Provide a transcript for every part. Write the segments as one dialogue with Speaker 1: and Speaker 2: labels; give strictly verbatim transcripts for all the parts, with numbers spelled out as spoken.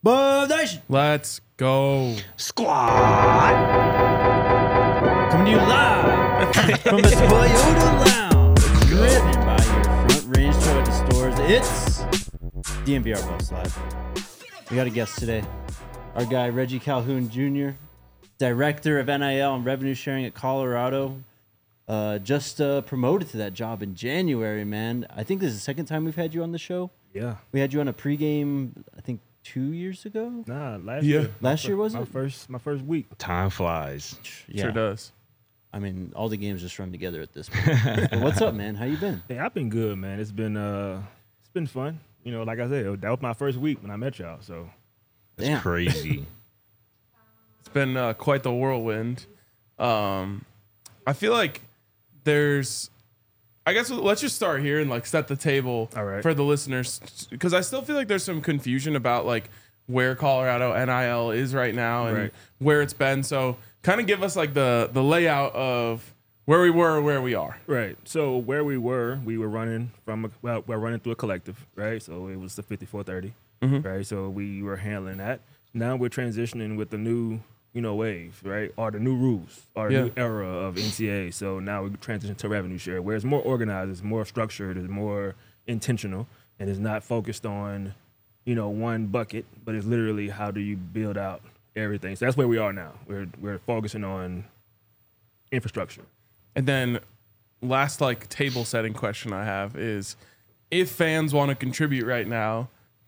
Speaker 1: Boom Nation!
Speaker 2: Let's go.
Speaker 3: Squad!
Speaker 1: Coming to you live from the Toyota Lounge, driven by your Front Range Toyota stores. It's D M V R Bus Live. We got a guest today. Our guy, Reggie Calhoun Junior, Director of N I L and Revenue Sharing at Colorado. Uh, just uh, promoted to that job in January, man. I think this is the second time we've had you on the show.
Speaker 3: Yeah.
Speaker 1: We had you on a pregame, I think, two years ago?
Speaker 3: Nah, last
Speaker 2: Yeah.
Speaker 3: year.
Speaker 1: Last year, was
Speaker 3: my
Speaker 1: it?
Speaker 3: First, my first week.
Speaker 4: Time flies.
Speaker 1: Yeah.
Speaker 2: Sure does.
Speaker 1: I mean, all the games just run together at this point. But what's up, man? How you been?
Speaker 3: Hey, I've been good, man. It's been uh, it's been fun. You know, like I said, that was my first week when I met y'all. So
Speaker 4: That's
Speaker 1: Damn.
Speaker 4: crazy.
Speaker 2: It's been uh, quite the whirlwind. Um, I feel like there's, I guess let's just start here and like set the table
Speaker 3: All right.
Speaker 2: for the listeners, because I still feel like there's some confusion about like where Colorado N I L is right now and
Speaker 3: Right.
Speaker 2: where it's been. So kind of give us like the the layout of where we were, where we are.
Speaker 3: right. So where we were, we were running from a, well, we're running through a collective, right? So it was the fifty-four thirty, right? So we were handling that. Now we're transitioning with the new, you know, wave, right? Or the new rules, or the
Speaker 2: Yeah.
Speaker 3: new era of N C A A. So now we transition to revenue share, where it's more organized, it's more structured, it's more intentional, and it's not focused on, you know, one bucket, but it's literally how do you build out everything. So that's where we are now. We're we're focusing on infrastructure.
Speaker 2: And then last like table setting question I have is, if fans want to contribute right now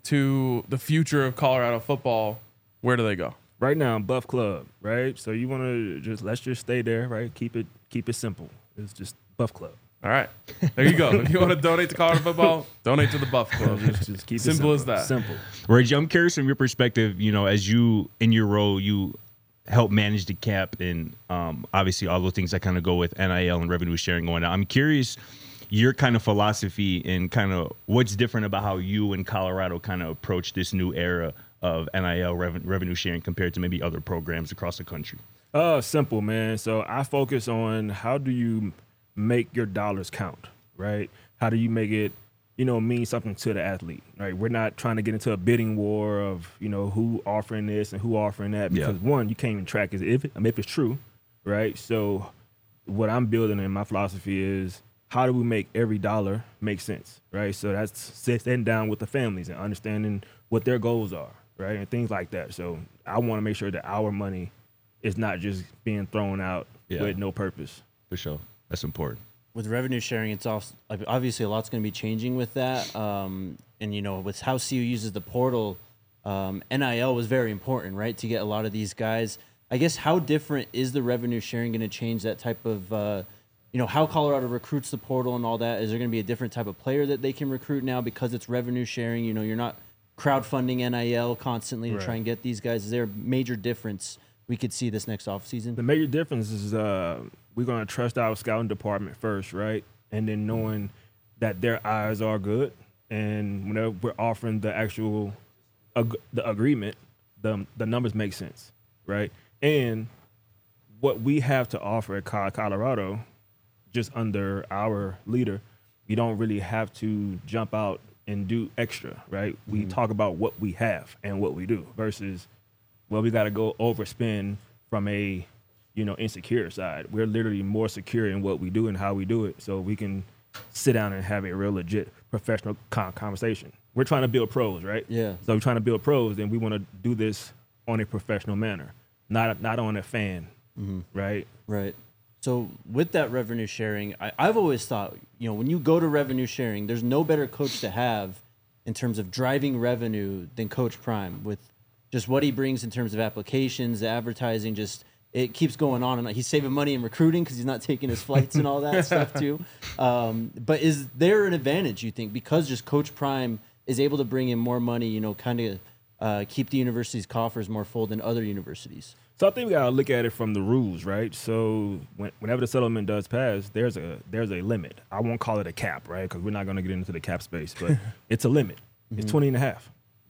Speaker 2: to the future of Colorado football, where do they go?
Speaker 3: Right now, Buff Club, right? So you want to just let's just stay there, right? Keep it keep it simple. It's just Buff Club.
Speaker 2: All right, there you go. If you want to donate to Colorado football, donate to the Buff Club.
Speaker 3: Just, just keep it
Speaker 2: Simple
Speaker 3: simple
Speaker 2: as that.
Speaker 3: Simple.
Speaker 4: Reggie, I'm curious from your perspective, you know, as you, in your role, you help manage the cap and um, obviously all those things that kind of go with N I L and revenue sharing going on. I'm curious your kind of philosophy and kind of what's different about how you and Colorado kind of approach this new era of N I L rev- revenue sharing compared to maybe other programs across the country.
Speaker 3: Uh, simple, man. So I focus on how do you make your dollars count, right? How do you make it, you know, mean something to the athlete, right? We're not trying to get into a bidding war of, you know, who offering this and who offering that,
Speaker 4: Yeah.
Speaker 3: because one, you can't even track is if, I mean, if it's true, right? So what I'm building in my philosophy is how do we make every dollar make sense, right? So that's sitting down with the families and understanding what their goals are, right? And things like that. So I want to make sure that our money is not just being thrown out
Speaker 4: Yeah.
Speaker 3: with no purpose.
Speaker 4: For sure. That's important.
Speaker 1: With revenue sharing, it's also, obviously a lot's going to be changing with that. Um, and, you know, with how C U uses the portal, um, N I L was very important, right, to get a lot of these guys. I guess how different is the revenue sharing going to change that type of, uh, you know, how Colorado recruits the portal and all that? Is there going to be a different type of player that they can recruit now because it's revenue sharing? You know, you're not crowdfunding N I L constantly to
Speaker 3: Right.
Speaker 1: try and get these guys. Is there a major difference we could see this next offseason?
Speaker 3: The major difference is uh, we're going to trust our scouting department first, right? And then knowing that their eyes are good. And whenever we're offering the actual ag- the agreement, the, the numbers make sense, right? And what we have to offer at Col- Colorado, just under our leader, you don't really have to jump out and do extra, right? We talk about what we have and what we do versus, well, we got to go overspend from a, you know, insecure side. We're literally more secure in what we do and how we do it, so we can sit down and have a real legit professional con- conversation. We're trying to build pros, right?
Speaker 1: Yeah.
Speaker 3: So we're trying to build pros, and we want to do this on a professional manner, not not on a fan, right?
Speaker 1: Right. So with that revenue sharing, I, I've always thought, you know, when you go to revenue sharing, there's no better coach to have in terms of driving revenue than Coach Prime, with just what he brings in terms of applications, the advertising, just it keeps going on. And he's saving money in recruiting because he's not taking his flights and all that stuff too. Um, but is there an advantage, you think, because just Coach Prime is able to bring in more money, you know, kind of uh, keep the university's coffers more full than other universities?
Speaker 3: So I think we gotta look at it from the rules, right? So when, whenever the settlement does pass, there's a there's a limit. I won't call it a cap, right? Because we're not gonna get into the cap space, but it's a limit. It's twenty and a half.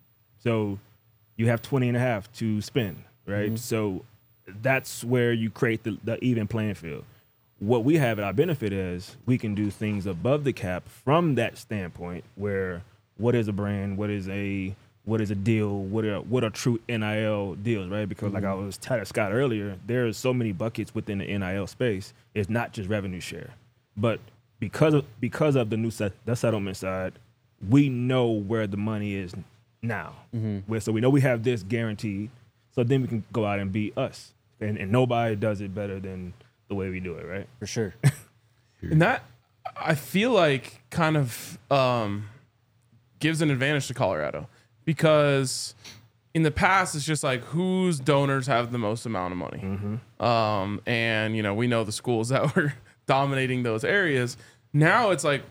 Speaker 3: So you have twenty and a half to spend, right? So that's where you create the, the even playing field. What we have at our benefit is we can do things above the cap from that standpoint where what is a brand, what is a what is a deal, what are what are true N I L deals, right? Because
Speaker 1: Mm-hmm.
Speaker 3: like I was telling Scott earlier, there's so many buckets within the N I L space. It's not just revenue share, but because of because of the new set, the settlement side, we know where the money is now.
Speaker 1: Mm-hmm.
Speaker 3: Where so we know we have this guaranteed. So then we can go out and be us, and, and nobody does it better than the way we do it, right?
Speaker 1: For sure.
Speaker 2: And that, I feel like, kind of um, gives an advantage to Colorado, because in the past it's just like whose donors have the most amount of money.
Speaker 3: Mm-hmm.
Speaker 2: Um, and, you know, we know the schools that were dominating those areas. Now it's like,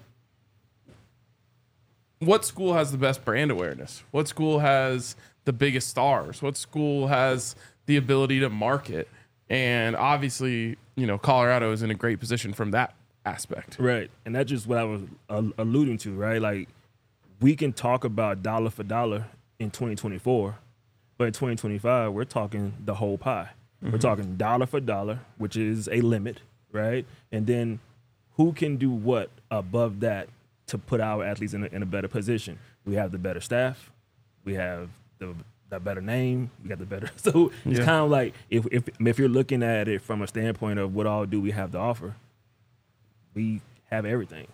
Speaker 2: what school has the best brand awareness? What school has the biggest stars? What school has the ability to market? And obviously, you know, Colorado is in a great position from that aspect.
Speaker 3: Right. And that's just what I was uh, alluding to, right? Like, we can talk about dollar for dollar in twenty twenty-four, but in twenty twenty-five, we're talking the whole pie. Mm-hmm. We're talking dollar for dollar, which is a limit, right? And then who can do what above that to put our athletes in a, in a better position? We have the better staff. We have the, the better name. We got the better. So it's
Speaker 2: Yeah.
Speaker 3: kind of like if, if if you're looking at it from a standpoint of what all do we have to offer, we have everything.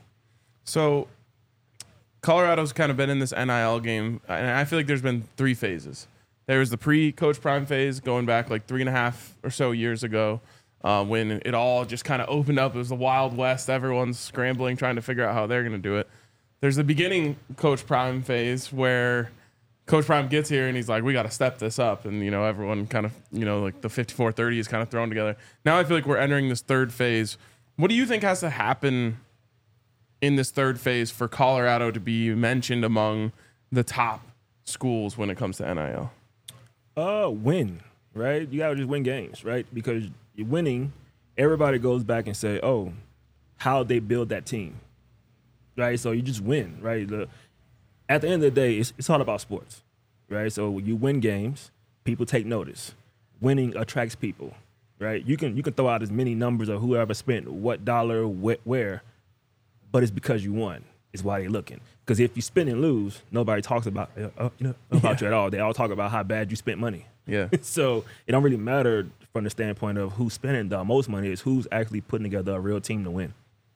Speaker 2: So Colorado's kind of been in this N I L game, and I feel like there's been three phases. There was the pre-Coach Prime phase going back like three and a half or so years ago, uh, when it all just kind of opened up. It was the Wild West. Everyone's scrambling, trying to figure out how they're going to do it. There's the beginning Coach Prime phase where Coach Prime gets here and he's like, we got to step this up. And, you know, everyone kind of, you know, like the fifty-four thirty is kind of thrown together. Now I feel like we're entering this third phase. What do you think has to happen in this third phase for Colorado to be mentioned among the top schools when it comes to N I L?
Speaker 3: Uh, win, right? You gotta just win games, right? Because you're winning, everybody goes back and say, oh, how they build that team, right? So you just win, right? The, at the end of the day, it's, it's all about sports, right? So you win games, people take notice. Winning attracts people, right? You can you can throw out as many numbers of whoever spent what dollar wh- where, but it's because you won. Is why they're looking. Because if you spin and lose, nobody talks about uh, you know, about
Speaker 2: Yeah.
Speaker 3: you at all. They all talk about how bad you spent money.
Speaker 2: Yeah.
Speaker 3: So it don't really matter from the standpoint of who's spending the most money. Is who's actually putting together a real team to win.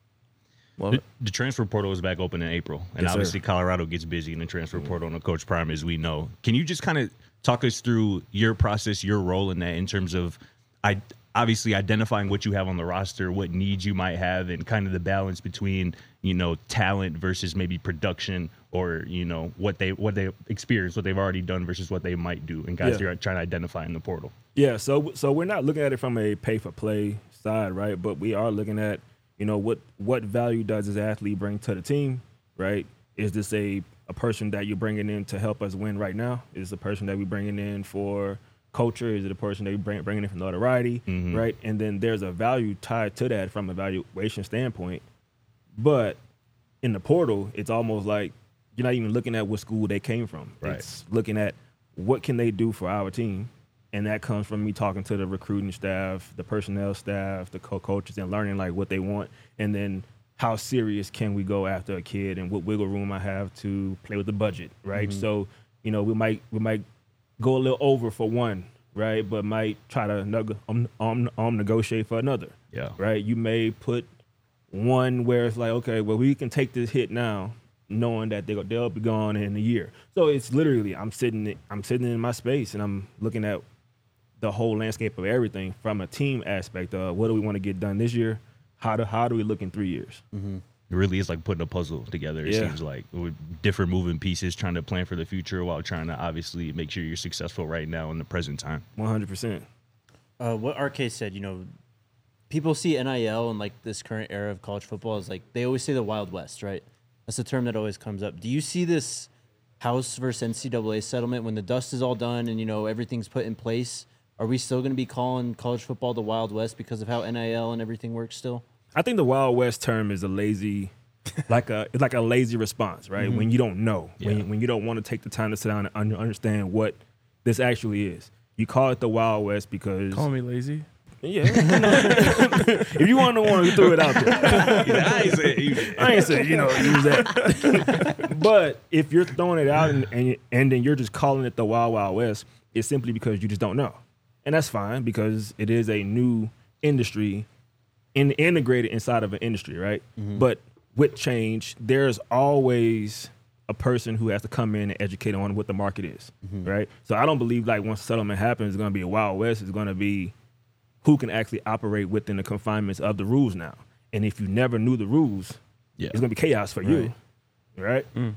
Speaker 2: Love
Speaker 4: The,
Speaker 2: it.
Speaker 4: the transfer portal is back open in April, and
Speaker 3: Yes, sir.
Speaker 4: obviously Colorado gets busy in the transfer portal and the Coach Prime, as we know. Can you just kind of talk us through your process, your role in that, in terms of, I obviously identifying what you have on the roster, what needs you might have, and kind of the balance between, you know, talent versus maybe production, or, you know, what they what they experience, what they've already done versus what they might do, and guys
Speaker 3: Yeah.
Speaker 4: you're trying to identify in the portal.
Speaker 3: Yeah, so so we're not looking at it from a pay for play side, right? But we are looking at, you know, what what value does this athlete bring to the team, right? Is this a a person that you're bringing in to help us win right now? Is this a person that we're bringing in for culture? Is it a person that we bring bringing in for notoriety,
Speaker 4: Mhm.
Speaker 3: right? And then there's a value tied to that from a valuation standpoint. But in the portal, it's almost like you're not even looking at what school they came from.
Speaker 4: Right.
Speaker 3: It's looking at what can they do for our team. And that comes from me talking to the recruiting staff, the personnel staff, the co-coaches, and learning like what they want. And then how serious can we go after a kid, and what wiggle room I have to play with the budget, right?
Speaker 4: Mm-hmm.
Speaker 3: So, you know, we might we might go a little over for one, right? But might try to neg- um, um, um, negotiate for another,
Speaker 4: Yeah.
Speaker 3: right? You may put one where it's like, okay, well, we can take this hit now, knowing that they'll they'll be gone in a year. So it's literally I'm sitting I'm sitting in my space and I'm looking at the whole landscape of everything from a team aspect of what do we want to get done this year? How do how do we look in three years?
Speaker 4: It really is like putting a puzzle together, it
Speaker 3: Yeah.
Speaker 4: seems like, with different moving pieces, trying to plan for the future while trying to obviously make sure you're successful right now in the present time.
Speaker 3: one hundred percent.
Speaker 1: Uh, what R K said, you know, people see N I L and like this current era of college football is like they always say the Wild West, right? That's the term that always comes up. Do you see this House versus N C double A settlement when the dust is all done and you know everything's put in place? Are we still going to be calling college football the Wild West because of how N I L and everything works still?
Speaker 3: I think the Wild West term is a lazy, like a it's like a lazy response, right?
Speaker 1: Mm-hmm.
Speaker 3: When you don't know, when
Speaker 4: Yeah.
Speaker 3: when you don't want to take the time to sit down and un- understand what this actually is. You call it the Wild West because
Speaker 2: Calling me lazy?
Speaker 3: Yeah. If you want to want to throw it out there.
Speaker 4: I ain't say,
Speaker 3: I ain't saying, you know, use that. But if you're throwing it out and, and and then you're just calling it the Wild Wild West, it's simply because you just don't know. And that's fine because it is a new industry in, integrated inside of an industry, right? Mm-hmm. But with change, there's always a person who has to come in and educate on what the market is, mm-hmm. right? So I don't believe like once settlement happens, it's going to be a Wild West. It's going to be who can actually operate within the confinements of the rules now. And if you never knew the rules, yeah. it's going to be chaos for right. you, right?
Speaker 2: Mm.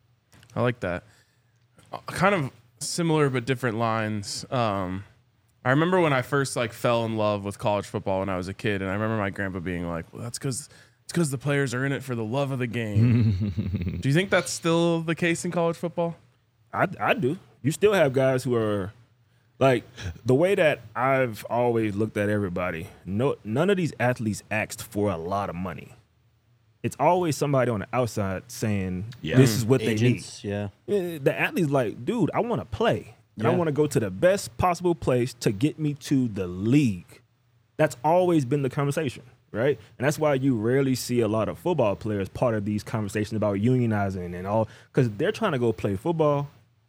Speaker 2: I like that. Uh, kind of similar but different lines. Um, I remember when I first like fell in love with college football when I was a kid, and I remember my grandpa being like, "Well, that's because it's because the players are in it for the love of the game." Do you think that's still the case in college football?
Speaker 3: I, I do. You still have guys who are like the way that I've always looked at everybody. No, none of these athletes asked for a lot of money. It's always somebody on the outside saying, yeah. "This is what
Speaker 1: Agents,
Speaker 3: they
Speaker 1: need."
Speaker 3: Yeah, the athlete's like, "Dude, I want to play, and
Speaker 1: yeah.
Speaker 3: I want to go to the best possible place to get me to the league." That's always been the conversation, right? And that's why you rarely see a lot of football players part of these conversations about unionizing and all, because they're trying to go play football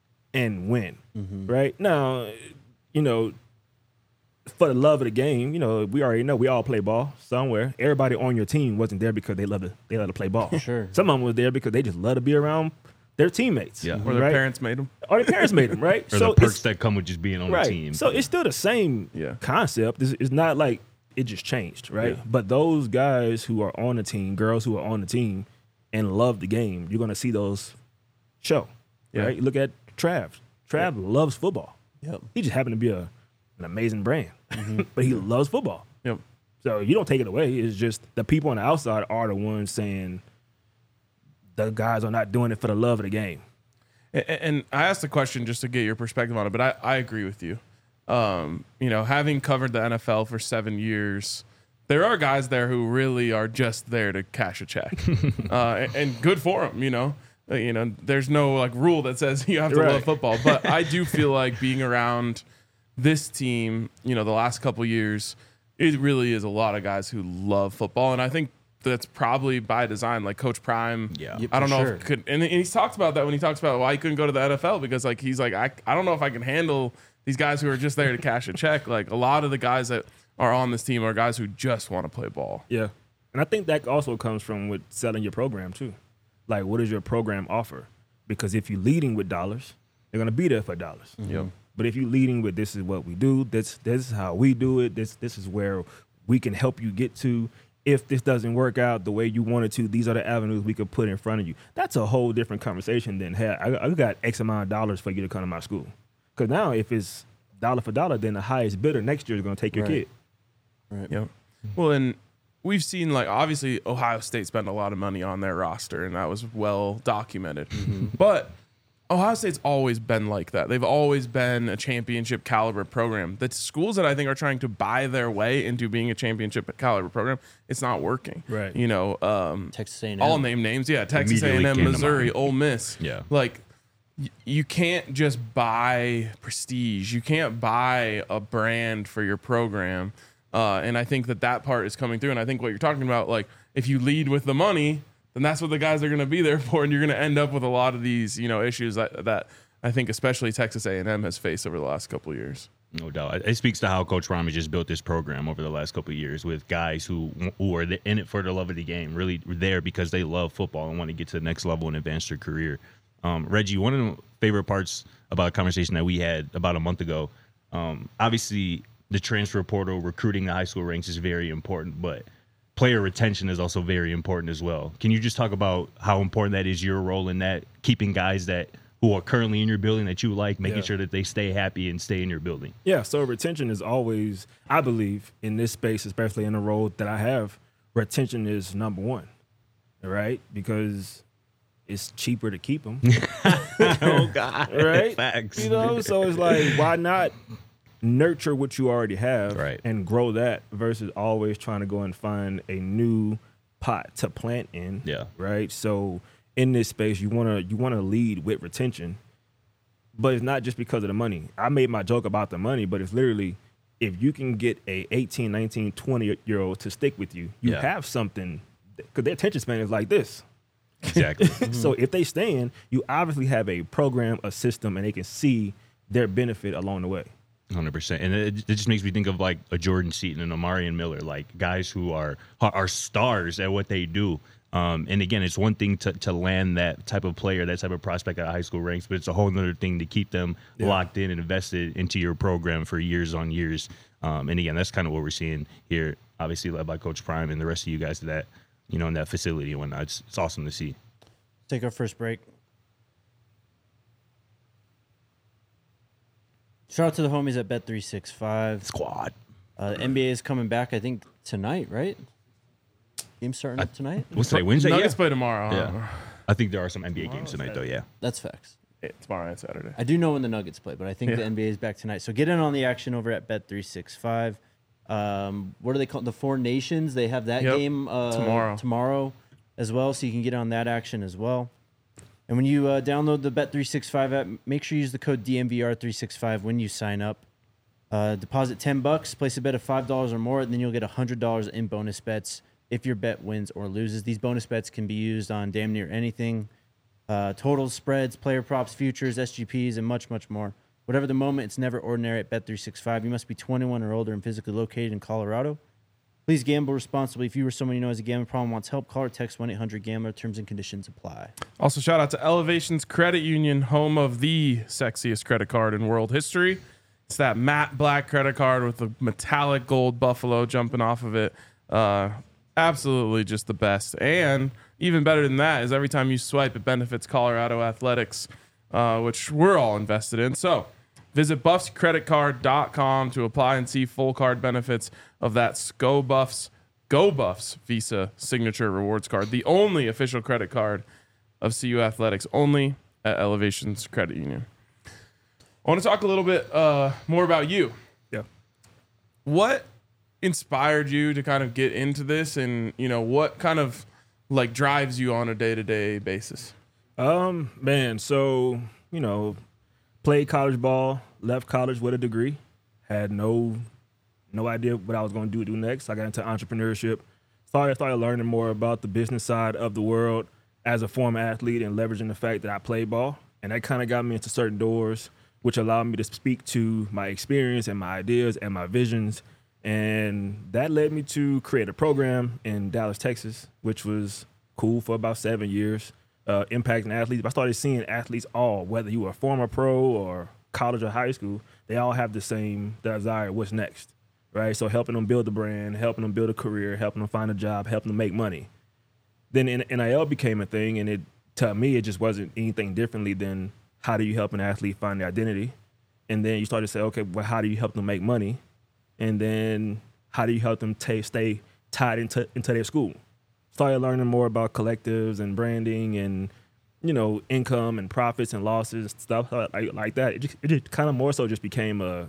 Speaker 3: and win, mm-hmm. right? Now, you know, for the love of the game, you know, we already know we all play ball somewhere. Everybody on your team wasn't there because they love to they love to play ball.
Speaker 1: Sure.
Speaker 3: Some of them was there because they just love to be around their teammates.
Speaker 4: Yeah.
Speaker 2: Or their
Speaker 3: right?
Speaker 2: parents made them.
Speaker 3: Or their parents made them, right?
Speaker 4: Or
Speaker 3: so
Speaker 4: the perks that come with just being on
Speaker 3: right.
Speaker 4: the team.
Speaker 3: So it's still the same
Speaker 2: yeah.
Speaker 3: concept. It's, it's not like it just changed, right?
Speaker 2: Yeah.
Speaker 3: But those guys who are on the team, girls who are on the team and love the game, you're going to see those show,
Speaker 2: yeah.
Speaker 3: right? Look at Trav. Trav yeah. loves football.
Speaker 1: Yep.
Speaker 3: He just happened to be a an amazing brand, mm-hmm. but he loves football.
Speaker 2: Yep.
Speaker 3: So you don't take it away. It's just the people on the outside are the ones saying the guys are not doing it for the love of the game.
Speaker 2: And, and I asked the question just to get your perspective on it, but I, I agree with you. Um, you know, having covered the N F L for seven years, there are guys there who really are just there to cash a check, uh, and, and good for them. You know, uh, you know, there's no like rule that says you have to
Speaker 3: right.
Speaker 2: love football, but I do feel like being around this team, you know, the last couple of years, it really is a lot of guys who love football, and I think that's probably by design. Like Coach Prime,
Speaker 4: yeah,
Speaker 2: I don't know
Speaker 1: sure.
Speaker 2: if it could, and, and he's talked about that when he talks about why he couldn't go to the N F L because like he's like I I don't know if I can handle these guys who are just there to cash a check. Like a lot of the guys that are on this team are guys who just want to play ball.
Speaker 3: Yeah, and I think that also comes from with selling your program too. Like, what does your program offer? Because if you're leading with dollars, they're gonna be there for dollars.
Speaker 2: Mm-hmm. Yep.
Speaker 3: But if you're leading with this is what we do, this this is how we do it, this this is where we can help you get to. If this doesn't work out the way you wanted to, these are the avenues we could put in front of you. That's a whole different conversation than, hey, I, I got X amount of dollars for you to come to my school. Because now if it's dollar for dollar, then the highest bidder next year is going to take your
Speaker 1: right.
Speaker 3: kid.
Speaker 1: Right.
Speaker 2: Yep. Well, and we've seen like obviously Ohio State spent a lot of money on their roster, and that was well documented. Mm-hmm. But Ohio State's always been like that. They've always been a championship caliber program. The schools that I think are trying to buy their way into being a championship caliber program, it's not working.
Speaker 3: Right.
Speaker 2: You know, um,
Speaker 1: Texas A and M.
Speaker 2: All name names. Yeah, Texas A and M, Missouri, Ole Miss.
Speaker 4: Yeah.
Speaker 2: Like, y- you can't just buy prestige. You can't buy a brand for your program. Uh, and I think that that part is coming through. And I think what you're talking about, like, if you lead with the money, then that's what the guys are going to be there for, and you're going to end up with a lot of these, you know, issues that, that I think especially Texas A and M has faced over the last couple of years.
Speaker 4: No doubt. It speaks to how Coach Prime has just built this program over the last couple of years with guys who who are in it for the love of the game, really there because they love football and want to get to the next level and advance their career. Um, Reggie, one of the favorite parts about a conversation that we had about a month ago, um, obviously the transfer portal, recruiting the high school ranks is very important, but player retention is also very important as well. Can you just talk about how important that is, your role in that, keeping guys that who are currently in your building that you like, making
Speaker 3: Yeah.
Speaker 4: sure that they stay happy and stay in your building?
Speaker 3: Yeah, so retention is always, I believe, in this space, especially in the role that I have, retention is number one, right? Because it's cheaper to keep them.
Speaker 4: Oh, God.
Speaker 3: Right?
Speaker 4: Facts.
Speaker 3: You know, so it's like, why not nurture what you already have
Speaker 4: Right.
Speaker 3: and grow that versus always trying to go and find a new pot to plant in.
Speaker 4: Yeah.
Speaker 3: Right. So in this space, you wanna you wanna lead with retention, but it's not just because of the money. I made my joke about the money, but it's literally if you can get a eighteen, nineteen, twenty year old to stick with you, you
Speaker 4: Yeah.
Speaker 3: have something because their attention span is like this.
Speaker 4: Exactly.
Speaker 3: So if they stand, you obviously have a program, a system, and they can see their benefit along the way.
Speaker 4: one hundred percent. And it, it just makes me think of like a Jordan Seaton and a Marion Miller, like guys who are are stars at what they do. Um, and again, it's one thing to, to land that type of player, that type of prospect at high school ranks, but it's a whole other thing to keep them
Speaker 3: Yeah.
Speaker 4: locked in and invested into your program for years on years. Um, and again, that's kind of what we're seeing here, obviously led by Coach Prime and the rest of you guys that, you know, in that facility and whatnot. It's, it's awesome to see.
Speaker 1: Take our first break. Shout out to the homies at Bet three sixty-five.
Speaker 4: Squad.
Speaker 1: Uh, the N B A is coming back, I think, tonight, right? Game starting up tonight?
Speaker 4: What's today? Wednesday?
Speaker 2: Nuggets
Speaker 4: Yeah.
Speaker 2: play tomorrow. huh?
Speaker 4: Yeah. I think there are some N B A games tonight, though. Yeah.
Speaker 1: That's facts.
Speaker 2: Yeah, tomorrow and Saturday.
Speaker 1: I do know when the Nuggets play, but I think
Speaker 2: Yeah.
Speaker 1: the N B A is back tonight. So get in on the action over at Bet three sixty-five. Um, what are they called? The Four Nations. They have that
Speaker 2: Yep.
Speaker 1: game uh,
Speaker 2: Tomorrow.
Speaker 1: tomorrow as well, so you can get on that action as well. And when you uh, download the Bet three sixty-five app, make sure you use the code D M V R three sixty-five when you sign up. Uh, deposit ten bucks, place a bet of five dollars or more, and then you'll get one hundred dollars in bonus bets if your bet wins or loses. These bonus bets can be used on damn near anything. Uh, totals, spreads, player props, futures, S G Ps, and much, much more. Whatever the moment, it's never ordinary at Bet three sixty-five. You must be twenty-one or older and physically located in Colorado. Please gamble responsibly. If you or someone you know has a gambling problem, wants help, call or text one eight hundred gambler. Terms and conditions apply.
Speaker 2: Also, shout out to Elevations Credit Union, home of the sexiest credit card in world history. It's that matte black credit card with the metallic gold buffalo jumping off of it. Uh, absolutely just the best. And even better than that is every time you swipe, it benefits Colorado Athletics, uh, which we're all invested in. So visit buffs credit card dot com to apply and see full card benefits of that Go Buffs, Go Buffs Visa Signature Rewards Card, the only official credit card of C U Athletics, only at Elevations Credit Union. I want to talk a little bit uh, more about you.
Speaker 3: Yeah.
Speaker 2: What inspired you to kind of get into this, and you know what kind of like drives you on a day-to-day basis?
Speaker 3: Um, man, so, you know, played college ball, left college with a degree, had no no idea what I was going to do do next. I got into entrepreneurship, started started learning more about the business side of the world as a former athlete and leveraging the fact that I played ball, and that kind of got me into certain doors, which allowed me to speak to my experience and my ideas and my visions. And that led me to create a program in Dallas, Texas, which was cool for about seven years, uh, impacting athletes. I started seeing athletes all, whether you were a former pro or college or high school, they all have the same desire, what's next, right? So helping them build a brand, helping them build a career, helping them find a job, helping them make money. Then N I L became a thing, and it to me, it just wasn't anything differently than how do you help an athlete find their identity? And then you start to say, okay, well, how do you help them make money? And then how do you help them t- stay tied into, into their school? Started learning more about collectives and branding and, you know, income and profits and losses and stuff like, like that. It just, it just kind of more so just became a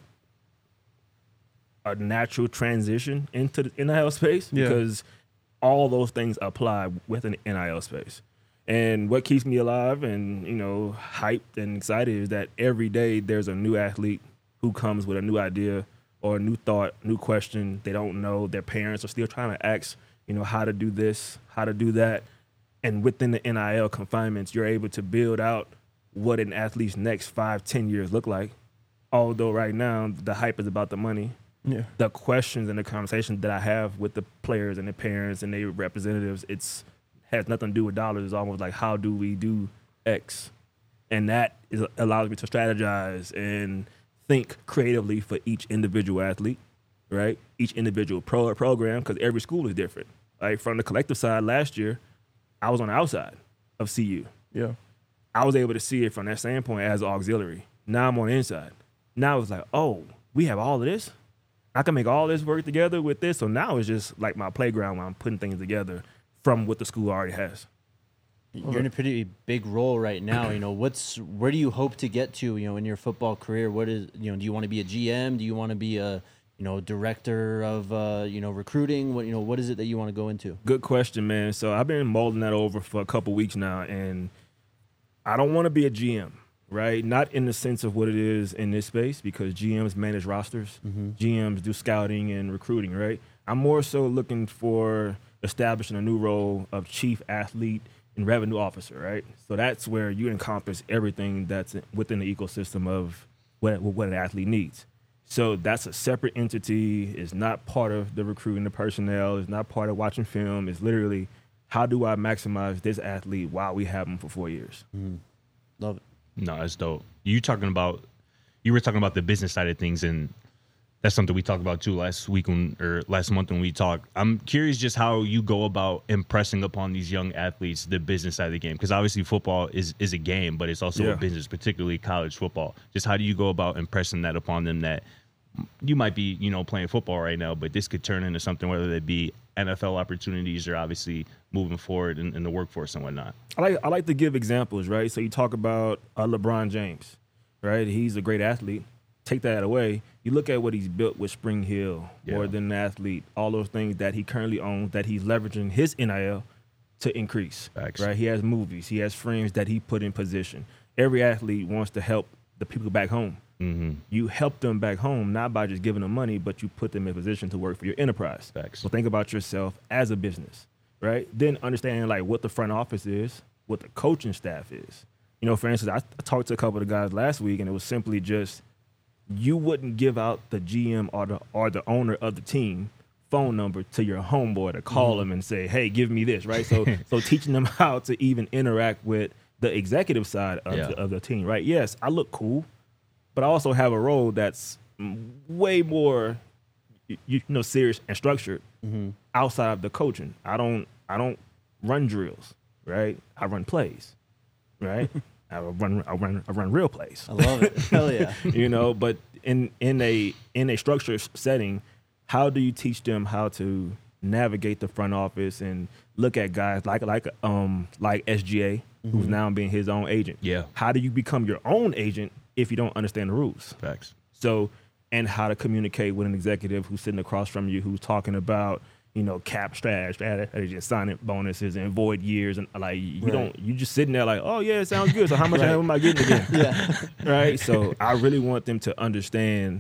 Speaker 3: a natural transition into the N I L space
Speaker 2: Yeah.
Speaker 3: because all those things apply with an N I L space. And what keeps me alive and, you know, hyped and excited is that every day there's a new athlete who comes with a new idea or a new thought, new question. They don't know. Their parents are still trying to ask, you know, how to do this, how to do that. And within the N I L confinements, you're able to build out what an athlete's next five, ten years look like. Although right now the hype is about the money.
Speaker 2: Yeah.
Speaker 3: The questions and the conversations that I have with the players and the parents and their representatives, it's has nothing to do with dollars. It's almost like, how do we do X? And that is, allows me to strategize and think creatively for each individual athlete, right? Each individual pro or program, because every school is different. Like from the collective side last year, I was on the outside of C U.
Speaker 2: Yeah.
Speaker 3: I was able to see it from that standpoint as an auxiliary. Now I'm on the inside. Now it's like, oh, we have all of this? I can make all this work together with this. So now it's just like my playground where I'm putting things together from what the school already has.
Speaker 1: You're in a pretty big role right now. You know, what's where do you hope to get to? You know, in your football career, what is you know? Do you want to be a G M? Do you want to be a you know director of uh, you know recruiting? What you know? What is it that you want to go into?
Speaker 3: Good question, man. So I've been molding that over for a couple weeks now, and I don't want to be a G M. right? Not in the sense of what it is in this space, because G Ms manage rosters, G Ms do scouting and recruiting, right? I'm more so looking for establishing a new role of chief athlete and revenue officer, right? So that's where you encompass everything that's within the ecosystem of what, what an athlete needs. So that's a separate entity. It's not part of the recruiting the personnel. It's not part of watching film. It's literally, how do I maximize this athlete while we have him for four years?
Speaker 1: Mm-hmm. Love it.
Speaker 4: No, that's dope. You talking about, you were talking about the business side of things, and that's something we talked about too last week when, or last month when we talked. I'm curious just how you go about impressing upon these young athletes the business side of the game, because obviously football is is a game, but it's also
Speaker 3: Yeah.
Speaker 4: a business, particularly college football. Just how do you go about impressing that upon them, that you might be, you know, playing football right now, but this could turn into something, whether it be N F L opportunities or obviously moving forward in, in the workforce and whatnot.
Speaker 3: I like I like to give examples, right? So you talk about uh, LeBron James, right? He's a great athlete. Take that away. You look at what he's built with Spring Hill,
Speaker 4: Yeah.
Speaker 3: more than an athlete, all those things that he currently owns, that he's leveraging his N I L to increase.
Speaker 4: Facts.
Speaker 3: Right? He has movies. He has friends that he put in position. Every athlete wants to help the people back home.
Speaker 4: Mm-hmm.
Speaker 3: You help them back home, not by just giving them money, but you put them in position to work for your enterprise.
Speaker 4: Facts.
Speaker 3: So think about yourself as a business, right? Then understanding like what the front office is, what the coaching staff is. You know, for instance, I, I talked to a couple of the guys last week, and it was simply just, you wouldn't give out the G M or the or the owner of the team phone number to your homeboy to call
Speaker 4: Mm-hmm.
Speaker 3: him and say, hey, give me this, right? So so teaching them how to even interact with the executive side of,
Speaker 4: Yeah.
Speaker 3: the, of the team, right? Yes, I look cool, but I also have a role that's mm, way more, you, you know, serious and structured outside of the coaching. I don't I don't run drills, right? I run plays, right? I run I run I run real plays.
Speaker 1: I love it. Hell yeah.
Speaker 3: You know, but in in a in a structured setting, how do you teach them how to navigate the front office and look at guys like like um like S G A, who's now being his own agent?
Speaker 4: Yeah.
Speaker 3: How do you become your own agent if you don't understand the rules?
Speaker 4: Facts.
Speaker 3: So, and how to communicate with an executive who's sitting across from you, who's talking about, you know, cap strat, strategy, signing bonuses and void years, and like you
Speaker 1: Right.
Speaker 3: don't, you just sitting there like, oh yeah, it sounds good. So how much
Speaker 1: Right.
Speaker 3: am I getting again?
Speaker 1: Yeah.
Speaker 3: Right. So I really want them to understand.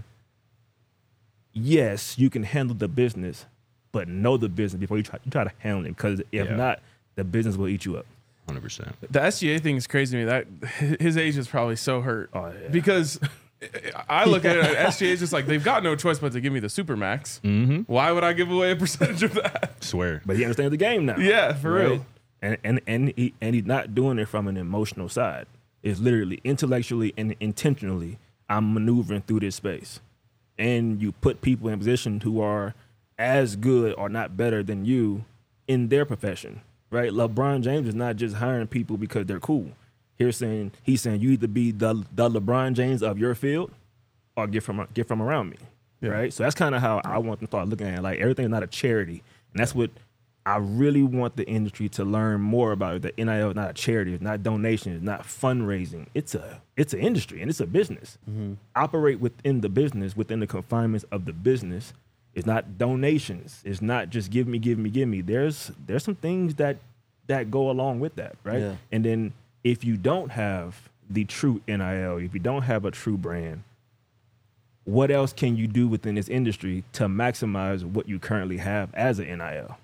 Speaker 3: Yes, you can handle the business, but know the business before you try, you try to handle it. Because if
Speaker 4: Yeah.
Speaker 3: not, the business will eat you up.
Speaker 4: one hundred percent.
Speaker 2: The S G A thing is crazy to me. That his age is probably so hurt
Speaker 3: Oh, yeah.
Speaker 2: because I look at it. S G A is just like they've got no choice but to give me the supermax.
Speaker 4: Mm-hmm.
Speaker 2: Why would I give away a percentage of that?
Speaker 4: Swear.
Speaker 3: But he understands the game now.
Speaker 2: Yeah, for
Speaker 3: right?
Speaker 2: real.
Speaker 3: And and and he and he's not doing it from an emotional side. It's literally intellectually and intentionally, I'm maneuvering through this space. And you put people in position who are as good or not better than you in their profession. Right? LeBron James is not just hiring people because they're cool. He's saying he's saying you either be the the LeBron James of your field or get from get from around me.
Speaker 2: Yeah.
Speaker 3: Right? So that's kind of how I want to start looking at it. Like everything is not a charity. And that's what I really want the industry to learn more about. The N I L is not a charity, it's not donation, it's not fundraising. It's a it's an industry and it's a business. Operate within the business, within the confinements of the business. It's not donations. It's not just give me, give me, give me. There's there's some things that that go along with that, right?
Speaker 1: Yeah.
Speaker 3: And then if you don't have the true N I L, if you don't have a true brand, what else can you do within this industry to maximize what you currently have as an N I L?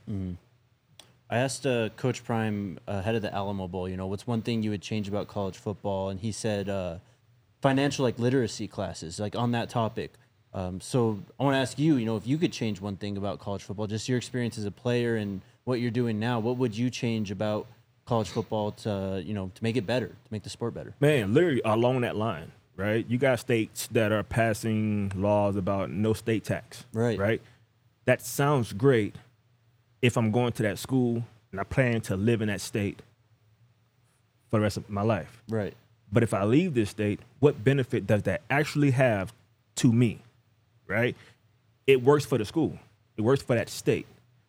Speaker 1: I asked uh, Coach Prime, uh, head of the Alamo Bowl, you know, what's one thing you would change about college football? And he said uh, financial like literacy classes, like on that topic. Um, so I want to ask you, you know, if you could change one thing about college football, just your experience as a player and what you're doing now, what would you change about college football to, you know, to make it better, to make the sport better?
Speaker 3: Man, literally along that line, right? You got states that are passing laws about no state tax.
Speaker 1: Right.
Speaker 3: Right? That sounds great if I'm going to that school and I plan to live in that state for the rest of my life.
Speaker 1: Right.
Speaker 3: But if I leave this state, what benefit does that actually have to me? Right? It works for the school. It works for that state.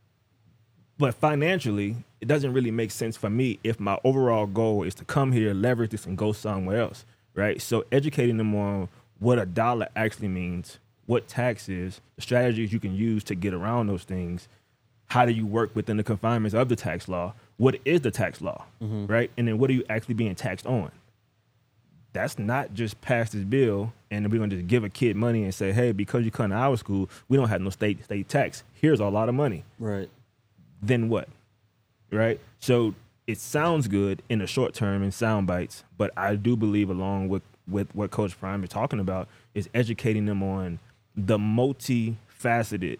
Speaker 3: But financially, it doesn't really make sense for me if my overall goal is to come here, leverage this, and go somewhere else, right? So educating them on what a dollar actually means, what tax is, the strategies you can use to get around those things, how do you work within the confinements of the tax law, what is the tax law, right? And then what are you actually being taxed on? that's not just pass this bill and we're gonna just give a kid money and say, hey, because you come to our school, we don't have no state state tax. Here's a lot of money.
Speaker 1: Right.
Speaker 3: Then what? Right? So it sounds good in the short term in sound bites, but I do believe along with, with what Coach Prime is talking about is educating them on the multifaceted